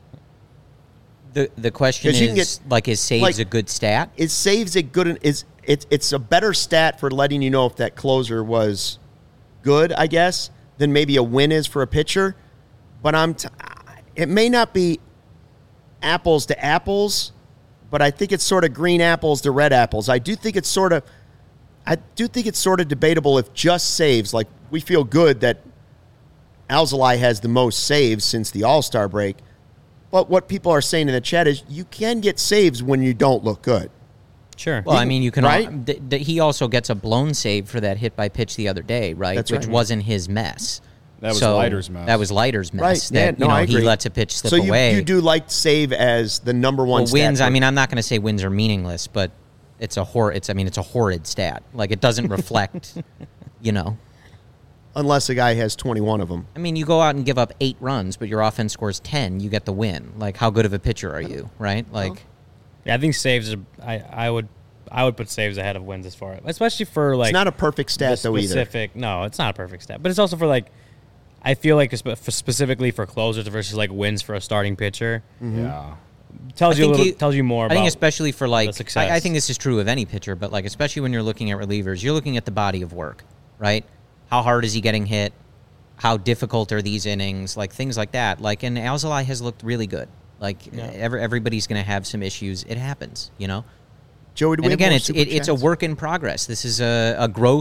The the question 'Cause you can is get- like, is saves like- a good stat? Is saves a good is it's it's a better stat for letting you know if that closer was good, I guess, than maybe a win is for a pitcher. But I'm t- it may not be apples to apples, but I think it's sort of green apples to red apples. I do think it's sort of I do think it's sort of debatable if just saves, like we feel good that Alzolay has the most saves since the All-Star break. But what people are saying in the chat is you can get saves when you don't look good. Sure. Well, I mean, you can. Right? Al- th- th- he also gets a blown save for that hit by pitch the other day, right? That's Which right. wasn't his mess. That was So, Leiter's mess. That was Leiter's mess. Right. That, Yeah, no, you know, I he agree. lets a pitch slip so you, away. you do like save as the number one well, stat wins. for- I mean, I'm not going to say wins are meaningless, but it's a hor. It's. I mean, it's a horrid stat. Like it doesn't reflect. You know. unless a guy has twenty-one of them. I mean, you go out and give up eight runs, but your offense scores ten. You get the win. Like, how good of a pitcher are you, right? Like, Yeah, I think saves are. I, I would I would put saves ahead of wins as far, especially for like It's not a perfect stat the though either. specific. No, it's not a perfect stat, but it's also for like. I feel like spe- for specifically for closers versus like wins for a starting pitcher Yeah. tells I you a think little you- tells you more I about. think especially for like, success. I, I think this is true of any pitcher, but like especially when you're looking at relievers, you're looking at the body of work, right? How hard is he getting hit? How difficult are these innings? Like things like that. Like, and Alzolay has looked really good. Like Yeah. every, everybody's going to have some issues. It happens, you know. Joey, do we And have again, more it's super it, it's a chats? work in progress. This is a, a growth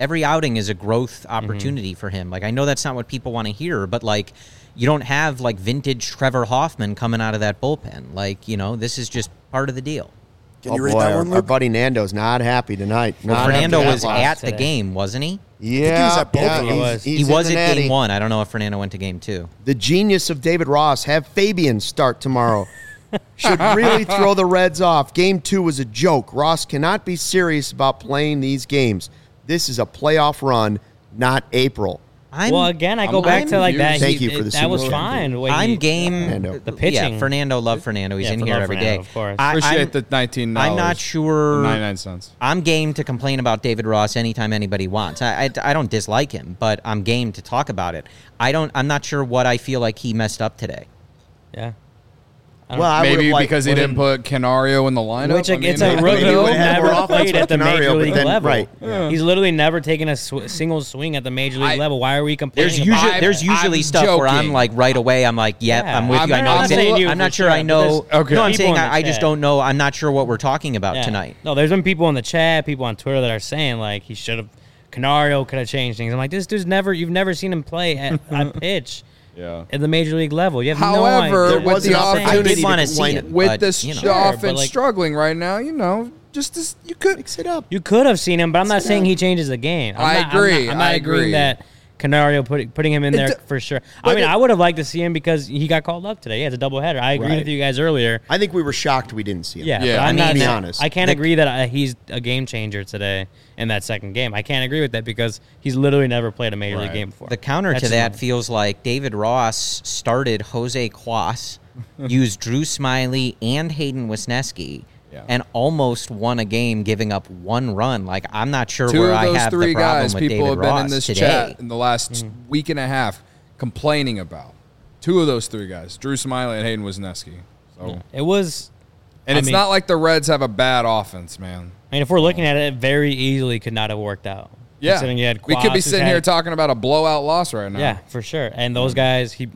every outing is a growth opportunity mm-hmm. for him. Like, I know that's not what people want to hear, but like, you don't have like vintage Trevor Hoffman coming out of that bullpen. Like, you know, this is just part of the deal. Can oh you read boy, that our, one, Luke? our buddy Nando's not happy tonight. Well, Not Fernando happy was that at loss. the game, wasn't he? Yeah, he was at both yeah, of them. he's- He was. he's He in was the at natty. game one. I don't know if Fernando went to game two. The genius of David Ross. Have Fabian start tomorrow. Should really throw the Reds off. Game two was a joke. Ross cannot be serious about playing these games. This is a playoff run, not April. I'm, well, again, I I'm go back to like confused. that. Thank he- you for it- the That was super chat. fine. the way I'm he- game. Fernando. The pitching. Yeah, Fernando, love Fernando. He's Yeah, in for here love every Fernando, day. of course. I- Appreciate I'm- the nineteen dollars. I'm not sure. ninety-nine cents. I'm game to complain about David Ross anytime anybody wants. I, I, I don't dislike him, but I'm game to talk about it. I don't. I'm not sure what I feel like he messed up today. Yeah. Well, I Maybe would've liked- because he didn't put Canario in the lineup. Which I like, mean, it's a maybe rookie he maybe who would have more never offense played with at the Canario, major but league then- level. right. Yeah. He's literally never taken a sw- single swing at the major league I- level. Why are we complaining? There's about usually it? there's usually I'm stuff where I'm joking. like right away. I'm like, yep, Yeah. I'm with you. I I'm- know. I'm I'm, not saying- saying you I'm for not sure. sure, I know. but there's- Okay. No, I'm people saying in the I, I just chat. don't know. I'm not sure what we're talking about Yeah. tonight. No, there's been people in the chat, people on Twitter that are saying like he should have, Canario could have changed things. I'm like, this dude's never, you've never seen him play at a pitch Yeah. at the major league level. You have However, no idea. with was the an opportunity I opportunity did want to to see complain it with but, this you know. sh- offense but, like- struggling right now, you know, just this, you could. Mix it up. You could have seen him, but I'm not saying he changes the game. I'm I not, agree, I'm not, I'm not I agreeing agree. that Canario put, putting him in It there d- for sure. I but mean, it- I would have liked to see him because he got called up today. He has a doubleheader. I agree Right. with you guys earlier. I think we were shocked we didn't see him. Yeah, Yeah, but I I'm mean, not, to be I- honest. I can't The- agree that uh, he's a game changer today in that second game. I can't agree with that because he's literally never played a major league Right. game before. The counter That's to just that not- feels like David Ross started Jose Quas, used Drew Smiley and Hayden Wisniewski, Yeah. and almost won a game, giving up one run. Like, I'm not sure Two where of I those have three the problem guys with people David have been Ross in this today. chat in the last Mm. week and a half complaining about. Two of those three guys, Drew Smiley and Hayden Wisniewski. So, It was, and I it's mean- not like the Reds have a bad offense, man. I mean, if we're looking at it, it very easily could not have worked out. Yeah, Considering you had we could Quas, be who's sitting had- here talking about a blowout loss right now. Yeah, for sure. And those guys, he,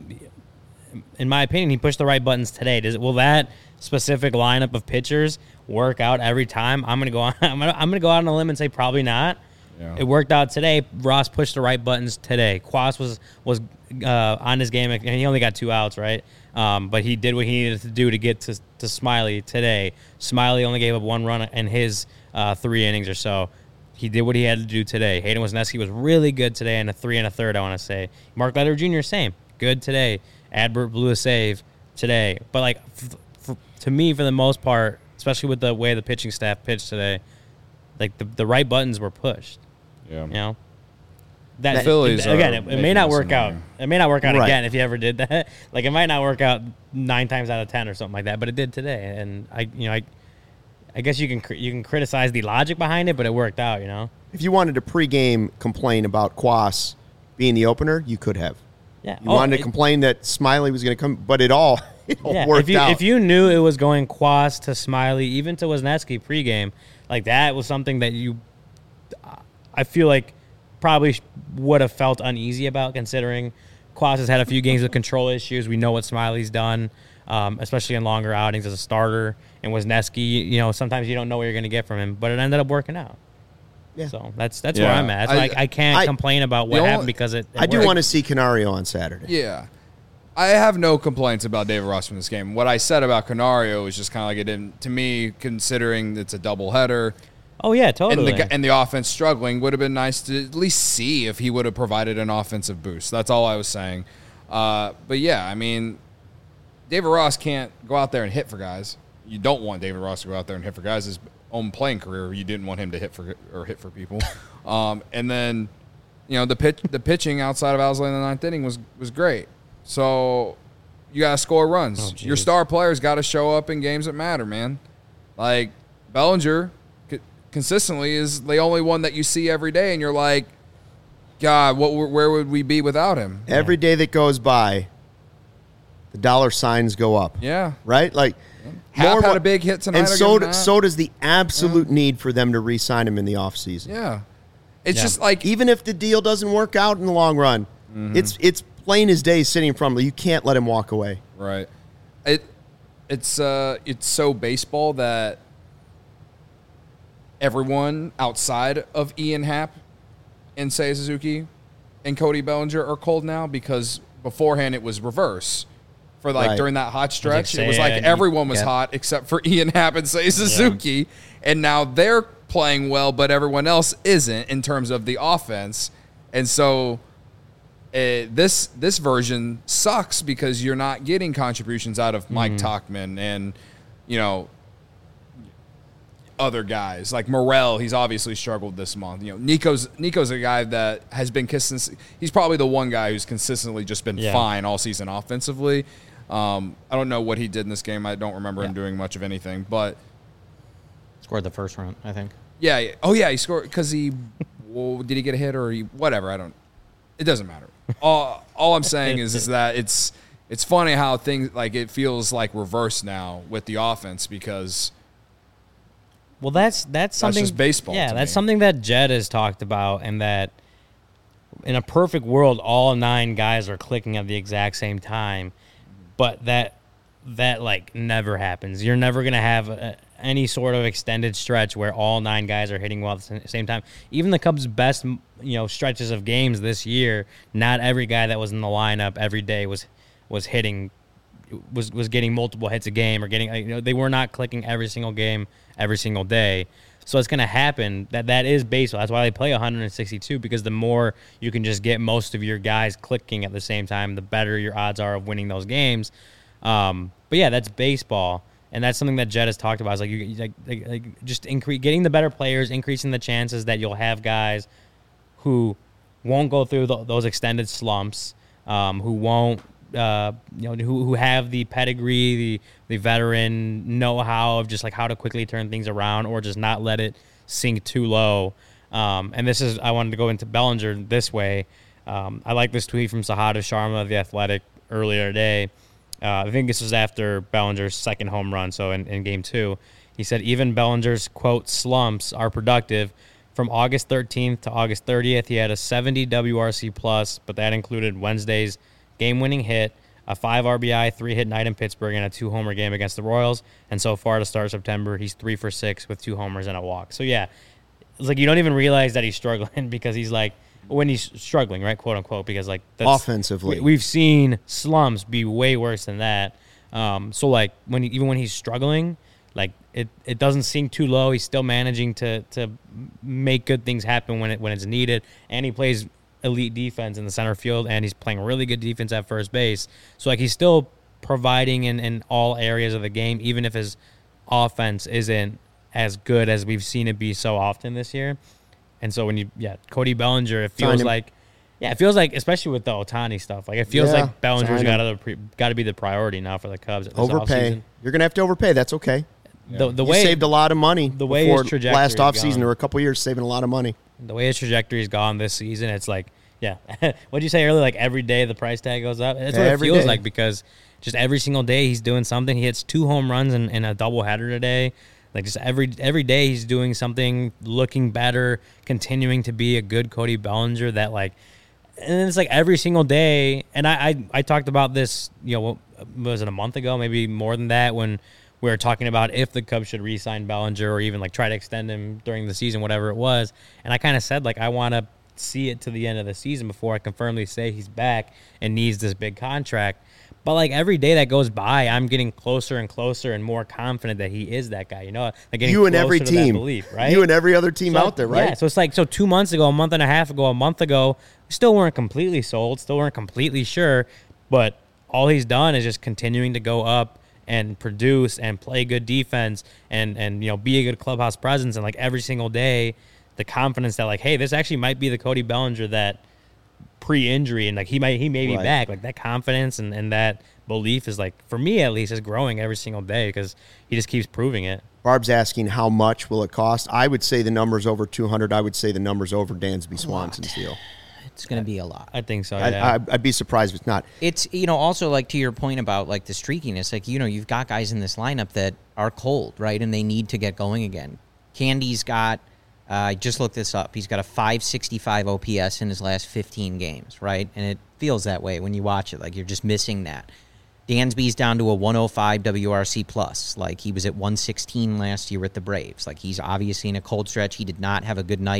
in my opinion, he pushed the right buttons today. Does will that specific lineup of pitchers work out every time? I'm gonna go on. I'm gonna, I'm gonna go out on a limb and say probably not. Yeah. It worked out today. Ross pushed the right buttons today. Quas was was uh, on his game, and he only got two outs, right? Um, but he did what he needed to do to get to, to Smiley today. Smiley only gave up one run in his uh, three innings or so. He did what he had to do today. Hayden Wisniewski was really good today in a three and a third, I want to say. Mark Leiter Junior, same. Good today. Adbert blew a save today. But, like, f- f- to me, for the most part, especially with the way the pitching staff pitched today, like, the, the right buttons were pushed. Yeah. You know? That, Phillies it, again, are it, it making may not this work out. annoying. It may not work out Right. again if you ever did that. Like, it might not work out nine times out of ten or something like that, but it did today. And, I, you know, I I guess you can cr- you can criticize the logic behind it, but it worked out, you know? If you wanted to pregame complain about Quas being the opener, you could have. Yeah. You Oh, wanted to it- complain that Smiley was going to come, but it all, it all Yeah, worked if you out. if you knew it was going Quas to Smiley, even to Wisniewski pregame, like that was something that you, I feel like, probably sh- would have felt uneasy about, considering Quas has had a few games with control issues. We know what Smiley's done, um, especially in longer outings as a starter. And Wisniewski, you know, sometimes you don't know what you're going to get from him, but it ended up working out. Yeah. So that's that's Yeah. where I'm at. It's I- like I can't I- complain about what the happened only- because it. it I do worked. want to see Canario on Saturday. Yeah. I have no complaints about David Ross from this game. What I said about Canario is just kind of like it didn't, to me, considering it's a doubleheader Oh yeah, and totally. the and the offense struggling, would have been nice to at least see if he would have provided an offensive boost. That's all I was saying. Uh, but yeah, I mean, David Ross can't go out there and hit for guys. You don't want David Ross to go out there and hit for guys. His own playing career, you didn't want him to hit for or hit for people. Um, and then, you know, the pitch, the pitching outside of Owsley in the ninth inning was was great. So you got to score runs. Oh, Your geez. star players got to show up in games that matter, man. Like Bellinger c- consistently is the only one that you see every day, and you're like, God, what? Where would we be without him? Every day that goes by, the dollar signs go up. Yeah. Right? Like, Hap more had mo- a big hit tonight. And I'll so, give d- him that. so does the absolute need for them to re-sign him in the offseason. Yeah. It's Yeah. just like Even if the deal doesn't work out in the long run, Mm-hmm. it's it's plain as day sitting in front of you. You can't let him walk away. right. It it's uh it's so baseball that everyone outside of Ian Happ and Seiya Suzuki and Cody Bellinger are cold now because beforehand it was reverse. For like Right. during that hot stretch, like it was like Seiya, everyone was yeah. hot except for Ian Happ and Seiya Suzuki, and now they're playing well, but everyone else isn't in terms of the offense, and so uh, this this version sucks because you're not getting contributions out of Mike Tauchman and you know other guys like Morel. He's obviously struggled this month. You know, Nico's Nico's a guy that has been consistent. He's probably the one guy who's consistently just been Yeah. fine all season offensively. Um, I don't know what he did in this game. I don't remember him Yeah. doing much of anything, but Scored the first round, I think. yeah. yeah. Oh yeah, he scored because he well, did he get a hit or he whatever. I don't. It doesn't matter. All all I'm saying is is that it's it's funny how things like it feels like reverse now with the offense because. Well, that's that's something. just baseball Yeah, to that's me. something that Jed has talked about, and that in a perfect world, all nine guys are clicking at the exact same time, but that that like never happens. You're never gonna have a, any sort of extended stretch where all nine guys are hitting well at the same time. Even the Cubs' best, you know, stretches of games this year, not every guy that was in the lineup every day was was hitting. Was was getting multiple hits a game or getting, you know, they were not clicking every single game every single day. So it's going to happen. That that is baseball. That's why they play one hundred sixty-two, because the more you can just get most of your guys clicking at the same time, the better your odds are of winning those games. Um, but yeah, that's baseball, and that's something that Jed has talked about. Is like you like, like, like just increase getting the better players, increasing the chances that you'll have guys who won't go through the, those extended slumps, um, who won't. Uh, you know, who who have the pedigree, the the veteran know-how of just like how to quickly turn things around, or just not let it sink too low. Um, and this is I wanted to go into Bellinger this way. Um, I like this tweet from Sahada Sharma of The Athletic earlier today. Uh, I think this was after Bellinger's second home run, so in, in game two. He said, even Bellinger's, quote, slumps are productive. From August thirteenth to August thirtieth, he had a seventy W R C plus, but that included Wednesday's game-winning hit, a five R B I, three-hit night in Pittsburgh, and a two-homer game against the Royals. And so far to start September, he's three for six with two homers and a walk. So, yeah, it's like you don't even realize that he's struggling because he's like, when he's struggling, right, quote-unquote, because, like, that's, Offensively. we, we've seen slumps be way worse than that. Um, so, like, when he, even when he's struggling, like, it, it doesn't sink too low. He's still managing to to make good things happen when it when it's needed, and he plays elite defense in the center field, and he's playing really good defense at first base. So, like, he's still providing in, in all areas of the game, even if his offense isn't as good as we've seen it be so often this year. And so when you, yeah, Cody Bellinger, it feels Sign him. like, yeah, it feels like, especially with the Ohtani stuff, like it feels Yeah, like Bellinger's sign got him. to got to be the priority now for the Cubs. This Overpay. offseason. You're going to have to overpay. That's okay. The, the You way saved a lot of money the way before his trajectory last is offseason gone. or a couple years saving a lot of money. the way his trajectory's gone this season, it's like, yeah, what'd you say earlier? Like every day the price tag goes up. That's what Every it feels day. like, because just every single day he's doing something. He hits two home runs in, in a doubleheader today. Like just every every day he's doing something, looking better, continuing to be a good Cody Bellinger. That like, and it's like every single day. And I I, I talked about this, you know, what was it, a month ago, maybe more than that, when we were talking about if the Cubs should re-sign Bellinger or even like try to extend him during the season, whatever it was. And I kind of said like I want to see it to the end of the season before I can firmly say he's back and needs this big contract. But like every day that goes by, I'm getting closer and closer and more confident that he is that guy. You know, like getting You and every closer to that team. belief, right? You and every other team So, out there, right? Yeah, so it's like, so two months ago, a month and a half ago, a month ago, we still weren't completely sold, still weren't completely sure, but all he's done is just continuing to go up and produce and play good defense and, and you know, be a good clubhouse presence. And like every single day, the confidence that like, hey, this actually might be the Cody Bellinger that pre-injury, and like he might he may be Right. back. Like that confidence and, and that belief is like, for me at least, is growing every single day because he just keeps proving it. Barb's asking how much will it cost. I would say the number's over two hundred. I would say the number's over Dansby Swanson's deal. It's going to be a lot. I think so. I, Yeah. I, I'd be surprised if it's not. It's, you know, also like to your point about like the streakiness, like, you know, you've got guys in this lineup that are cold, right? And they need to get going again. Candy's got, uh, I just looked this up. He's got a five sixty-five O P S in his last fifteen games, right? And it feels that way when you watch it. Like you're just missing that. Dansby's down to a one oh five W R C plus. Like he was at one sixteen last year with the Braves. Like he's obviously in a cold stretch. He did not have a good night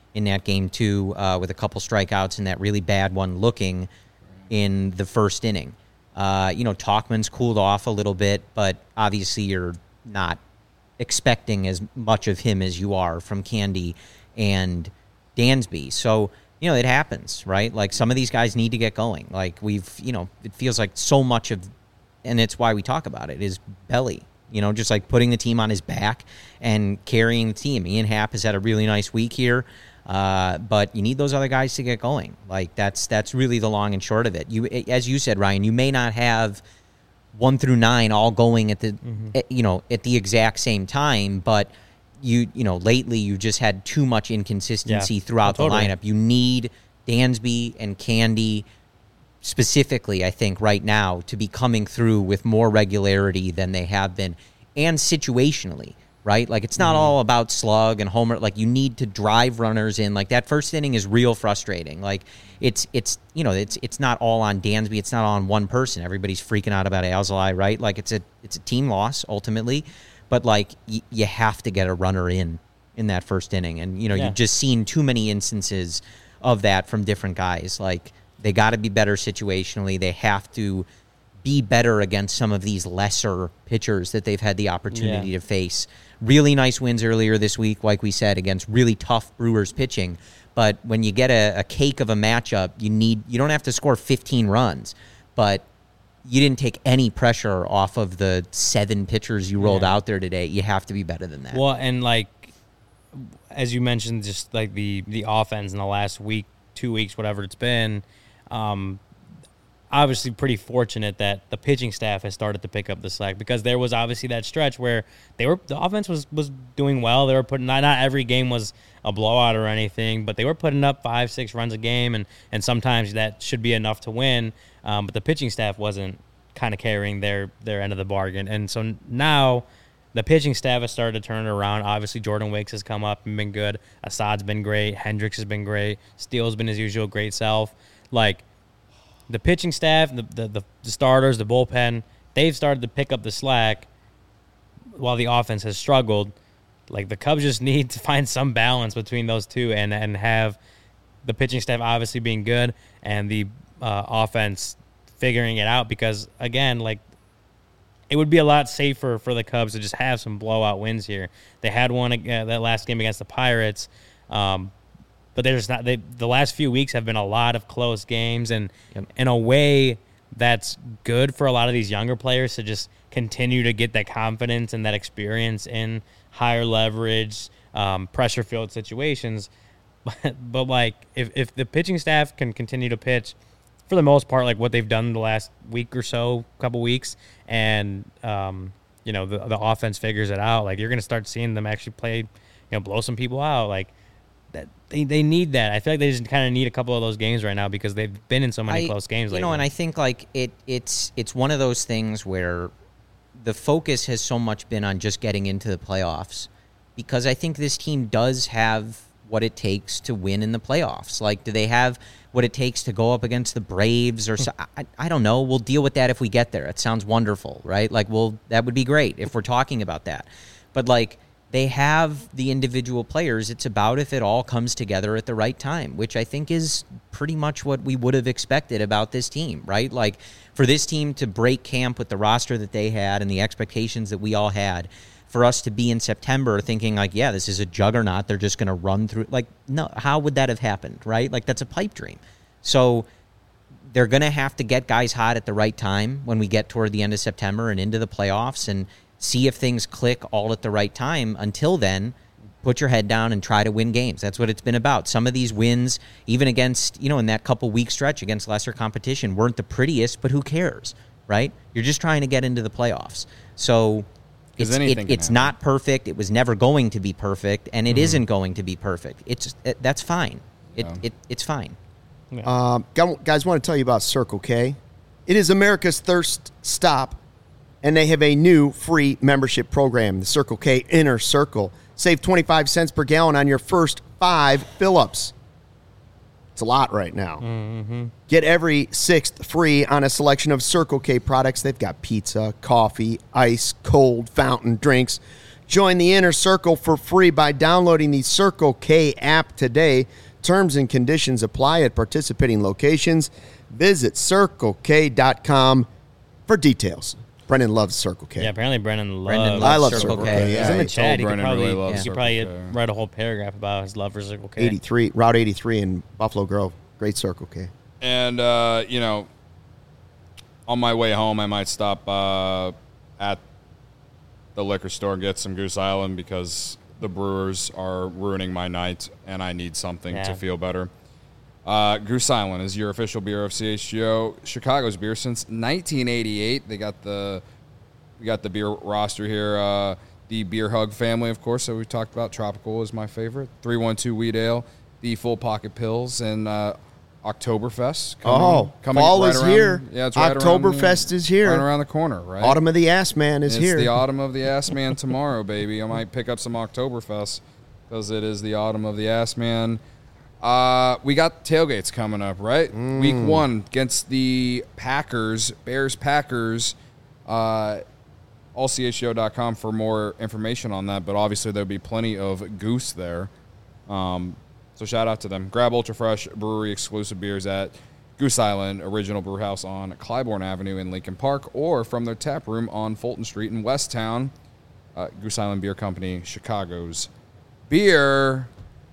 in that game too, uh, with a couple strikeouts and that really bad one looking in the first inning. Uh, you know, Tauchman's cooled off a little bit, but obviously you're not expecting as much of him as you are from Candy and Dansby. So, you know, it happens, right? Like, some of these guys need to get going. Like, we've, you know, it feels like so much of, and it's why we talk about it, is Belly. You know, just like putting the team on his back and carrying the team. Ian Happ has had a really nice week here, uh, but you need those other guys to get going. Like, that's that's really the long and short of it. You, as you said, Ryan, you may not have one through nine all going at the, mm-hmm. at, you know, at the exact same time, but you, you know, lately you just had too much inconsistency yeah, throughout totally. the lineup. You need Dansby and Candy specifically, I think, right now, to be coming through with more regularity than they have been, and situationally, right? Like, it's not mm-hmm. all about slug and homer. Like, you need to drive runners in. Like, that first inning is real frustrating. Like, it's, it's you know, it's it's not all on Dansby. It's not on one person. Everybody's freaking out about Alzolay, right? Like, it's a it's a team loss, ultimately. But, like, y- you have to get a runner in in that first inning. And, you know, yeah. you've just seen too many instances of that from different guys. Like, they got to be better situationally. They have to be better against some of these lesser pitchers that they've had the opportunity yeah. to face. Really nice wins earlier this week, like we said, against really tough Brewers pitching. But when you get a, a cake of a matchup, you need you don't have to score fifteen runs, but you didn't take any pressure off of the seven pitchers you rolled yeah. out there today. You have to be better than that. Well, and like as you mentioned, just like the the offense in the last week, two weeks, whatever it's been. Um, obviously pretty fortunate that the pitching staff has started to pick up the slack, because there was obviously that stretch where they were the offense was, was doing well. They were putting not, not every game was a blowout or anything, but they were putting up five, six runs a game, and, and sometimes that should be enough to win. Um, but the pitching staff wasn't kind of carrying their, their end of the bargain. And so now the pitching staff has started to turn it around. Obviously, Jordan Wicks has come up and been good. Assad's been great. Hendricks has been great. Steele's been his usual great self. Like, the pitching staff, the, the the the starters, the bullpen, they've started to pick up the slack while the offense has struggled. Like, the Cubs just need to find some balance between those two and, and have the pitching staff obviously being good and the uh, offense figuring it out, because, again, like, it would be a lot safer for the Cubs to just have some blowout wins here. They had one uh, that last game against the Pirates, um, but there's not. They, the last few weeks have been a lot of close games, and yep. in a way that's good for a lot of these younger players to just continue to get that confidence and that experience in higher leverage, um, pressure-filled situations. But, but like, if, if the pitching staff can continue to pitch, for the most part, like what they've done the last week or so, couple weeks, and um, you know, the the offense figures it out, like, you're going to start seeing them actually play, you know, blow some people out. Like, that they, they need that. I feel like they just kind of need a couple of those games right now, because they've been in so many I, close games lately. You know, and I think, like, it it's it's one of those things where the focus has so much been on just getting into the playoffs, because I think this team does have what it takes to win in the playoffs. Like, do they have what it takes to go up against the Braves or so? I, I don't know. We'll deal with that if we get there. It sounds wonderful, right? Like, well, that would be great if we're talking about that. But, like, they have the individual players. It's about if it all comes together at the right time, which I think is pretty much what we would have expected about this team, right? Like, for this team to break camp with the roster that they had and the expectations that we all had, for us to be in September thinking, like, yeah, this is a juggernaut, they're just going to run through. Like, no, how would that have happened, right? Like, that's a pipe dream. So they're going to have to get guys hot at the right time when we get toward the end of September and into the playoffs, and see if things click all at the right time. Until then, put your head down and try to win games. That's what it's been about. Some of these wins, even against, you know, in that couple week stretch against lesser competition, weren't the prettiest, but who cares, right? You're just trying to get into the playoffs. So it's, it, it's not perfect. It was never going to be perfect, and it mm-hmm. isn't going to be perfect. It's it, that's fine. It, yeah. it It's fine. Yeah. Um, guys, want to tell you about Circle K. It is America's thirst stop, and they have a new free membership program, the Circle K Inner Circle. Save twenty-five cents per gallon on your first five fill-ups. It's a lot right now. Mm-hmm. Get every sixth free on a selection of Circle K products. They've got pizza, coffee, ice, cold, fountain drinks. Join the Inner Circle for free by downloading the Circle K app today. Terms and conditions apply at participating locations. Visit circle k dot com for details. Brennan loves Circle K. Yeah, apparently Brennan loves. Brendan I loves love Circle Circle K. K. He's Yeah, in the he chat. He could Brennan probably, really loves he could Circle probably K. write a whole paragraph about his love for Circle K. eighty-three, Route eighty-three in Buffalo Grove. Great Circle K. And, uh, you know, on my way home, I might stop uh, at the liquor store and get some Goose Island because the Brewers are ruining my night, and I need something Yeah. to feel better. Uh, Goose Island is your official beer of C H G O, Chicago's beer since nineteen eighty-eight. They got the we got the beer roster here. Uh, the Beer Hug family, of course, that we talked about. Tropical is my favorite. three one two Wheat Ale, the Full Pocket Pills, and uh, Oktoberfest. Coming, Oh, coming fall right is around- here. Yeah, it's right Oktoberfest around, is here. Right around the corner, right? Autumn of the Ass Man is it's here. the autumn of the Ass Man tomorrow, baby. I might pick up some Oktoberfest because it is the autumn of the Ass Man. Uh, we got tailgates coming up, right? Mm. Week one against the Packers, Bears Packers. Uh, all C H G O dot com for more information on that, but obviously there'll be plenty of Goose there. Um, so shout out to them. Grab Ultra Fresh Brewery exclusive beers at Goose Island Original Brew House on Clybourne Avenue in Lincoln Park, or from their tap room on Fulton Street in Westtown. Uh, Goose Island Beer Company, Chicago's beer.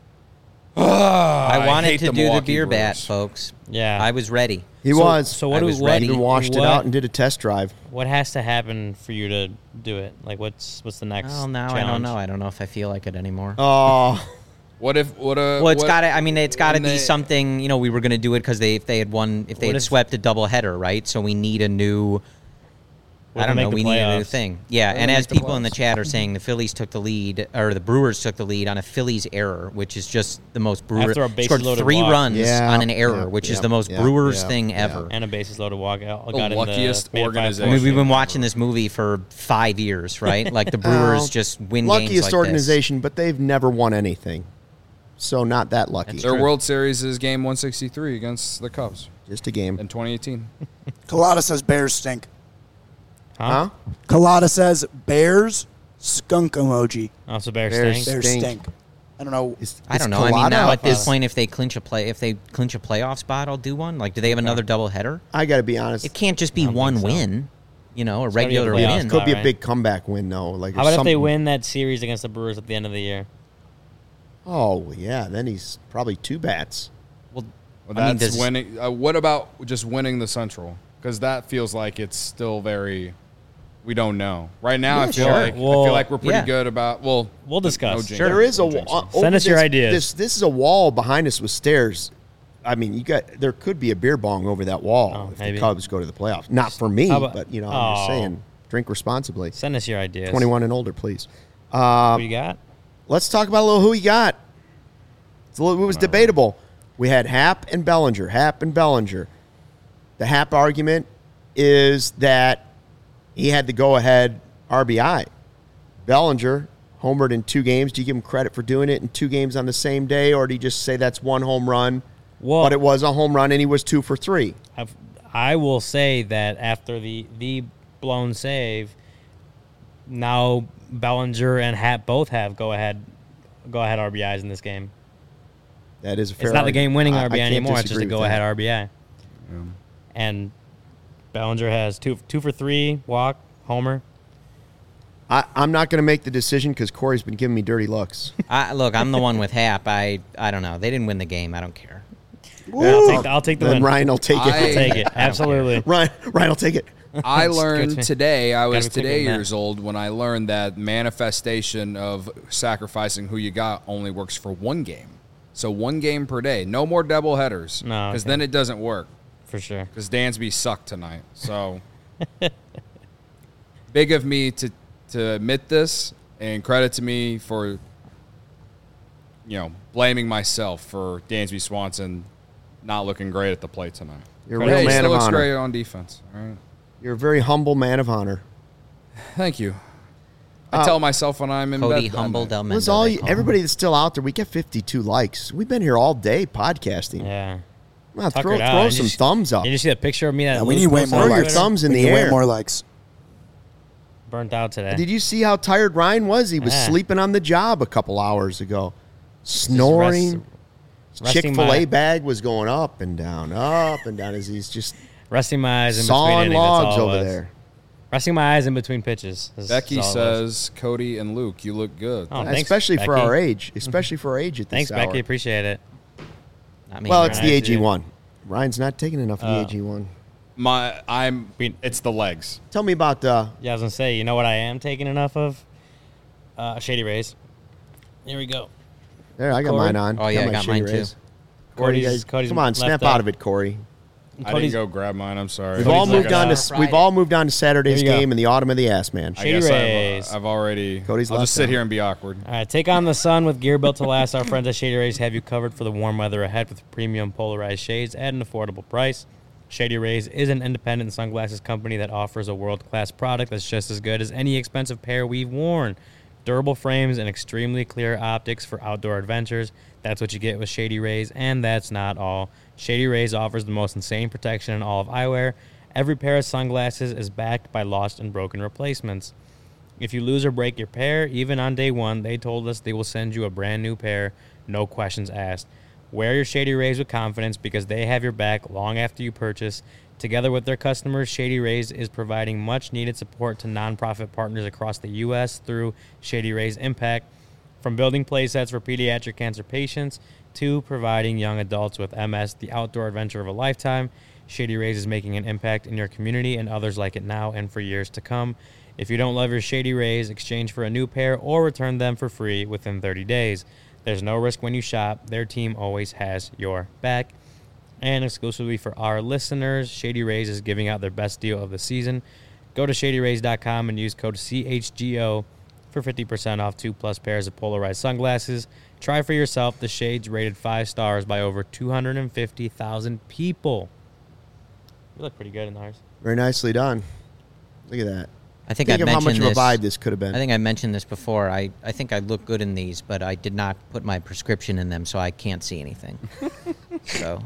I wanted hate to the do the Milwaukee beer bat, Brewers. folks. Yeah. I was ready. he So- was. So what I do was what, ready. Even washed it what- out and did a test drive. What has to happen for you to do it? Like, what's what's the next? Well, now challenge? I don't know. I don't know if I feel like it anymore. Oh, What if what a Well, it's what- got to. I mean, it's got to when be they- something. You know, we were going to do it because they if they had won, if they What had if- swept a doubleheader, right? So we need a new. What I if don't they know. make We the need a new playoffs? thing. Yeah, They and make as the people in the playoffs. chat are saying, the Phillies took the lead, or the Brewers took the lead on a Phillies error, which is just the most Brewer After a bases scored loaded three walk. runs Yeah, on an error, yeah, which is yeah, the most yeah, Brewers yeah, thing yeah. ever. And a bases loaded walkout. The got in luckiest made it five organization. I mean, we've been ever. watching this movie for five years, right? Like the Brewers Well, just win games luckiest like organization, but they've never won anything. So not that lucky. Their World Series is game one sixty-three against the Cubs Just a game. in twenty eighteen. Colada says Bears stink. Huh? Colada says Bears skunk emoji. Oh, so Bears, Bears. stink. Bears Stink. stink. I don't know. Is- I is don't know. I mean, Colada now a at this plus? point, if they clinch a play, if they clinch a playoff spot, I'll do one. Like, do they have another double header? I got to be honest. It can't just be don't one think so. win. You know, a gotta be a regular playoff win. spot. Could be a right? big comeback win, though. Like How about if they something- win that series against the Brewers at the end of the year? Oh yeah, then he's probably two bats. Well, Well, I mean, that's does- winning. Uh, what about just winning the Central? Because that feels like it's still very. We don't know right now. I Yeah, feel sure. like I Well, feel like we're pretty yeah. good about. Well, We'll discuss. no jinx. Sure. There is a No wa- jinx. uh, over Send us your this- ideas. This this is a wall behind us with stairs. I mean, you got there could be a beer bong over that wall Oh, if maybe. the Cubs go to the playoffs. Not for me, How about- but you know, I'm just Oh. saying, drink responsibly. Send us your ideas. twenty-one and older, please. Uh, What you got? Let's talk about a little who he got. It's a little, it was debatable. We had Happ and Bellinger. Happ and Bellinger. The Happ argument is that he had the go-ahead R B I. Bellinger homered in two games. Do you give him credit for doing it in two games on the same day, or do you just say that's one home run? Well- but it was a home run, and he was two for three. I've, I will say that after the the blown save, now Bellinger and Happ both have go ahead go ahead R B Is in this game. That is a fair It's not the argument. game winning I- I R B I can't anymore. It's just disagree a with go ahead that. R B I. And Bellinger has two two for three, walk, homer. I, I'm not going to make the decision because Corey's been giving me dirty looks. I, look, I'm the one with Hap. I I don't know. They didn't win the game. I don't care. I'll take, the, I'll take the Then win. Ryan will take it. I- I'll take it. Absolutely. Ryan, Ryan will take it. I It's learned good. today, I was Gotta be quicker today than that. years old when I learned that manifestation of sacrificing who you got only works for one game. So one game per day. No more double headers. No, Because okay. then it doesn't work. For sure. Because Dansby sucked tonight. So big of me to, to admit this, and credit to me for, you know, blaming myself for Dansby Swanson not looking great at the plate tonight. You're a But real hey, he man still of looks honor. great on defense. All right. You're a very humble man of honor. Thank you. I Uh, tell myself when I'm in Cody bed. that Humble night. Del Was Mendo, all they you, call him. everybody that's still out there? We get fifty-two likes. We've been here all day podcasting. Yeah. Well, Tucker throw it out. throw Did some you s- thumbs up. Did you see that picture of me that Yeah, we Luke need way posted more Throw on your likes. Twitter? thumbs in we the need air. way more likes. Burnt out today. Did you see how tired Ryan was? He was Yeah. sleeping on the job a couple hours ago, snoring. Rest- Chick-fil-A resting my- bag was going up and down, up and down as he's just Resting my eyes in between sawing innings. That's logs all it over was. there. Resting my eyes in between pitches. That's- Becky that's all it was. says, Cody and Luke, you look good. Oh, thanks, especially for Becky. our age. Especially for our age at this Thanks, hour. Becky. Appreciate it. Not me. Well, it's the Right. A G one. Ryan's not taking enough of the Uh, A G one. My, I'm. We- It's the legs. Tell me about uh, Yeah, I was gonna say. You know what I am taking enough of? Uh, Shady Rays. Here we go. there. I got Corey? mine on. Oh, yeah, I my got Shady mine, too. Rays. Corey, Cody's- guys, Cody's come on, left snap up. out of it, Corey. I didn't Cody's- go grab mine. I'm sorry. We've Cody's all moved left on to up. s- we've all moved on to Saturday's Here you go. game in the autumn of the Ass Man. I Shady guess Rays. I've, uh, I've already. Cody's I'll left just sit out. here and be awkward. All right, take on the sun with gear built to last. Our friends at Shady Rays have you covered for the warm weather ahead with premium polarized shades at an affordable price. Shady Rays is an independent sunglasses company that offers a world-class product that's just as good as any expensive pair we've worn. Durable frames and extremely clear optics for outdoor adventures. That's what you get with Shady Rays, and that's not all. Shady Rays offers the most insane protection in all of eyewear. Every pair of sunglasses is backed by lost and broken replacements. If you lose or break your pair, even on day one, they told us they will send you a brand new pair, no questions asked. Wear your Shady Rays with confidence because they have your back long after you purchase. Together with their customers, Shady Rays is providing much-needed support to nonprofit partners across the U S through Shady Rays Impact. From building playsets for pediatric cancer patients to providing young adults with M S the outdoor adventure of a lifetime, Shady Rays is making an impact in your community and others like it now and for years to come. If you don't love your Shady Rays, exchange for a new pair or return them for free within thirty days. There's no risk when you shop. Their team always has your back. And exclusively for our listeners, Shady Rays is giving out their best deal of the season. Go to shady rays dot com and use code C H G O for fifty percent off two plus pairs of polarized sunglasses. Try for yourself the shades rated five stars by over two hundred fifty thousand people. You look pretty good in ours. Very nicely done. Look at that. I think, Think I of how mentioned much of a this. vibe this could have been. I think I mentioned this before. I, I think I look good in these, but I did not put my prescription in them, so I can't see anything. so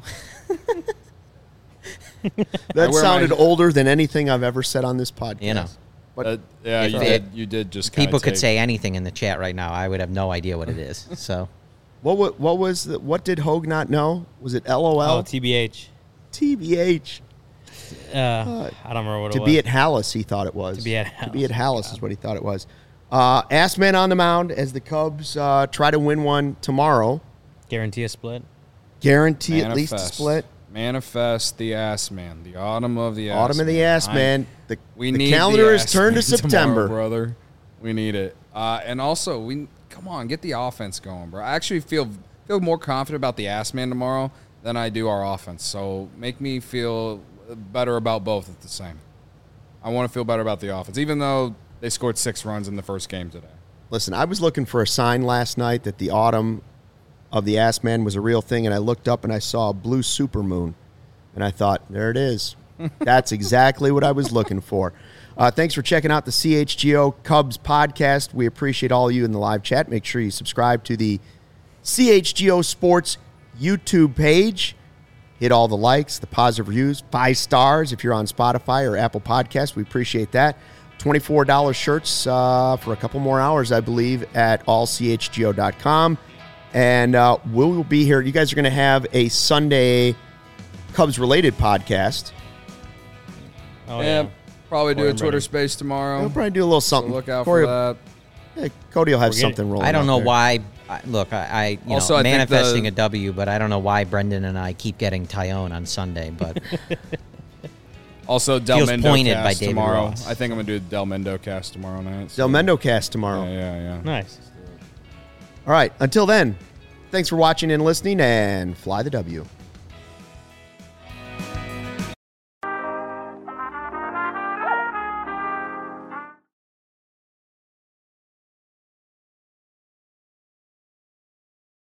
that I wear sounded my- older than anything I've ever said on this podcast. You know. But Uh, yeah, If you it- did. You did just. kinda people could take- say anything in the chat right now. I would have no idea what it is. So what wa- what was the, what did Hogue not know? Was it L O L? Oh, T B H. T B H. Uh, I don't remember what it To was. be at Hallis, he thought it was. To be at To be at Hallis, Hallis is what he thought it was. Uh, Ass Man on the mound as the Cubs uh, try to win one tomorrow. Guarantee a split. Guarantee at least a Manifest. split. Manifest the ass man. The autumn of the ass Autumn of the man. Ass I- Man. The, We the need calendar the is ass turned to man tomorrow, September. brother. We need it. Uh, and also, we come on, get the offense going, bro. I actually feel feel more confident about the ass man tomorrow than I do our offense. So make me feel better about both at the same. I want to feel better about the offense, even though they scored six runs in the first game today. Listen, I was looking for a sign last night that the autumn of the Ass Man was a real thing, and I looked up and I saw a blue supermoon, and I thought, there it is. That's exactly what I was looking for. Uh, thanks for checking out the C H G O Cubs podcast. We appreciate all of you in the live chat. Make sure you subscribe to the C H G O Sports YouTube page. Hit all the likes, the positive reviews, five stars if you're on Spotify or Apple Podcasts. We appreciate that. twenty-four dollars shirts uh, for a couple more hours, I believe, at all c h g o dot com. And uh, we will be here. You guys are going to have a Sunday Cubs-related podcast. Oh, yeah, yeah. probably do Corey a and Twitter Brady. space tomorrow. We'll probably do a little So something. look out Corey, for that. yeah, Cody will have We're getting- something rolling I don't out know there. why. I, look, I, I you Also, know, I think manifesting the- a W, but I don't know why Brendan and I keep getting Tyone on Sunday. But Also, Del Feels Mendo pointed by cast David tomorrow. Ross. I think I'm gonna do the Del Mendo cast tomorrow night. Del Mendo cast tomorrow. Yeah, yeah, yeah. Nice. All right. Until then, thanks for watching and listening, and fly the W.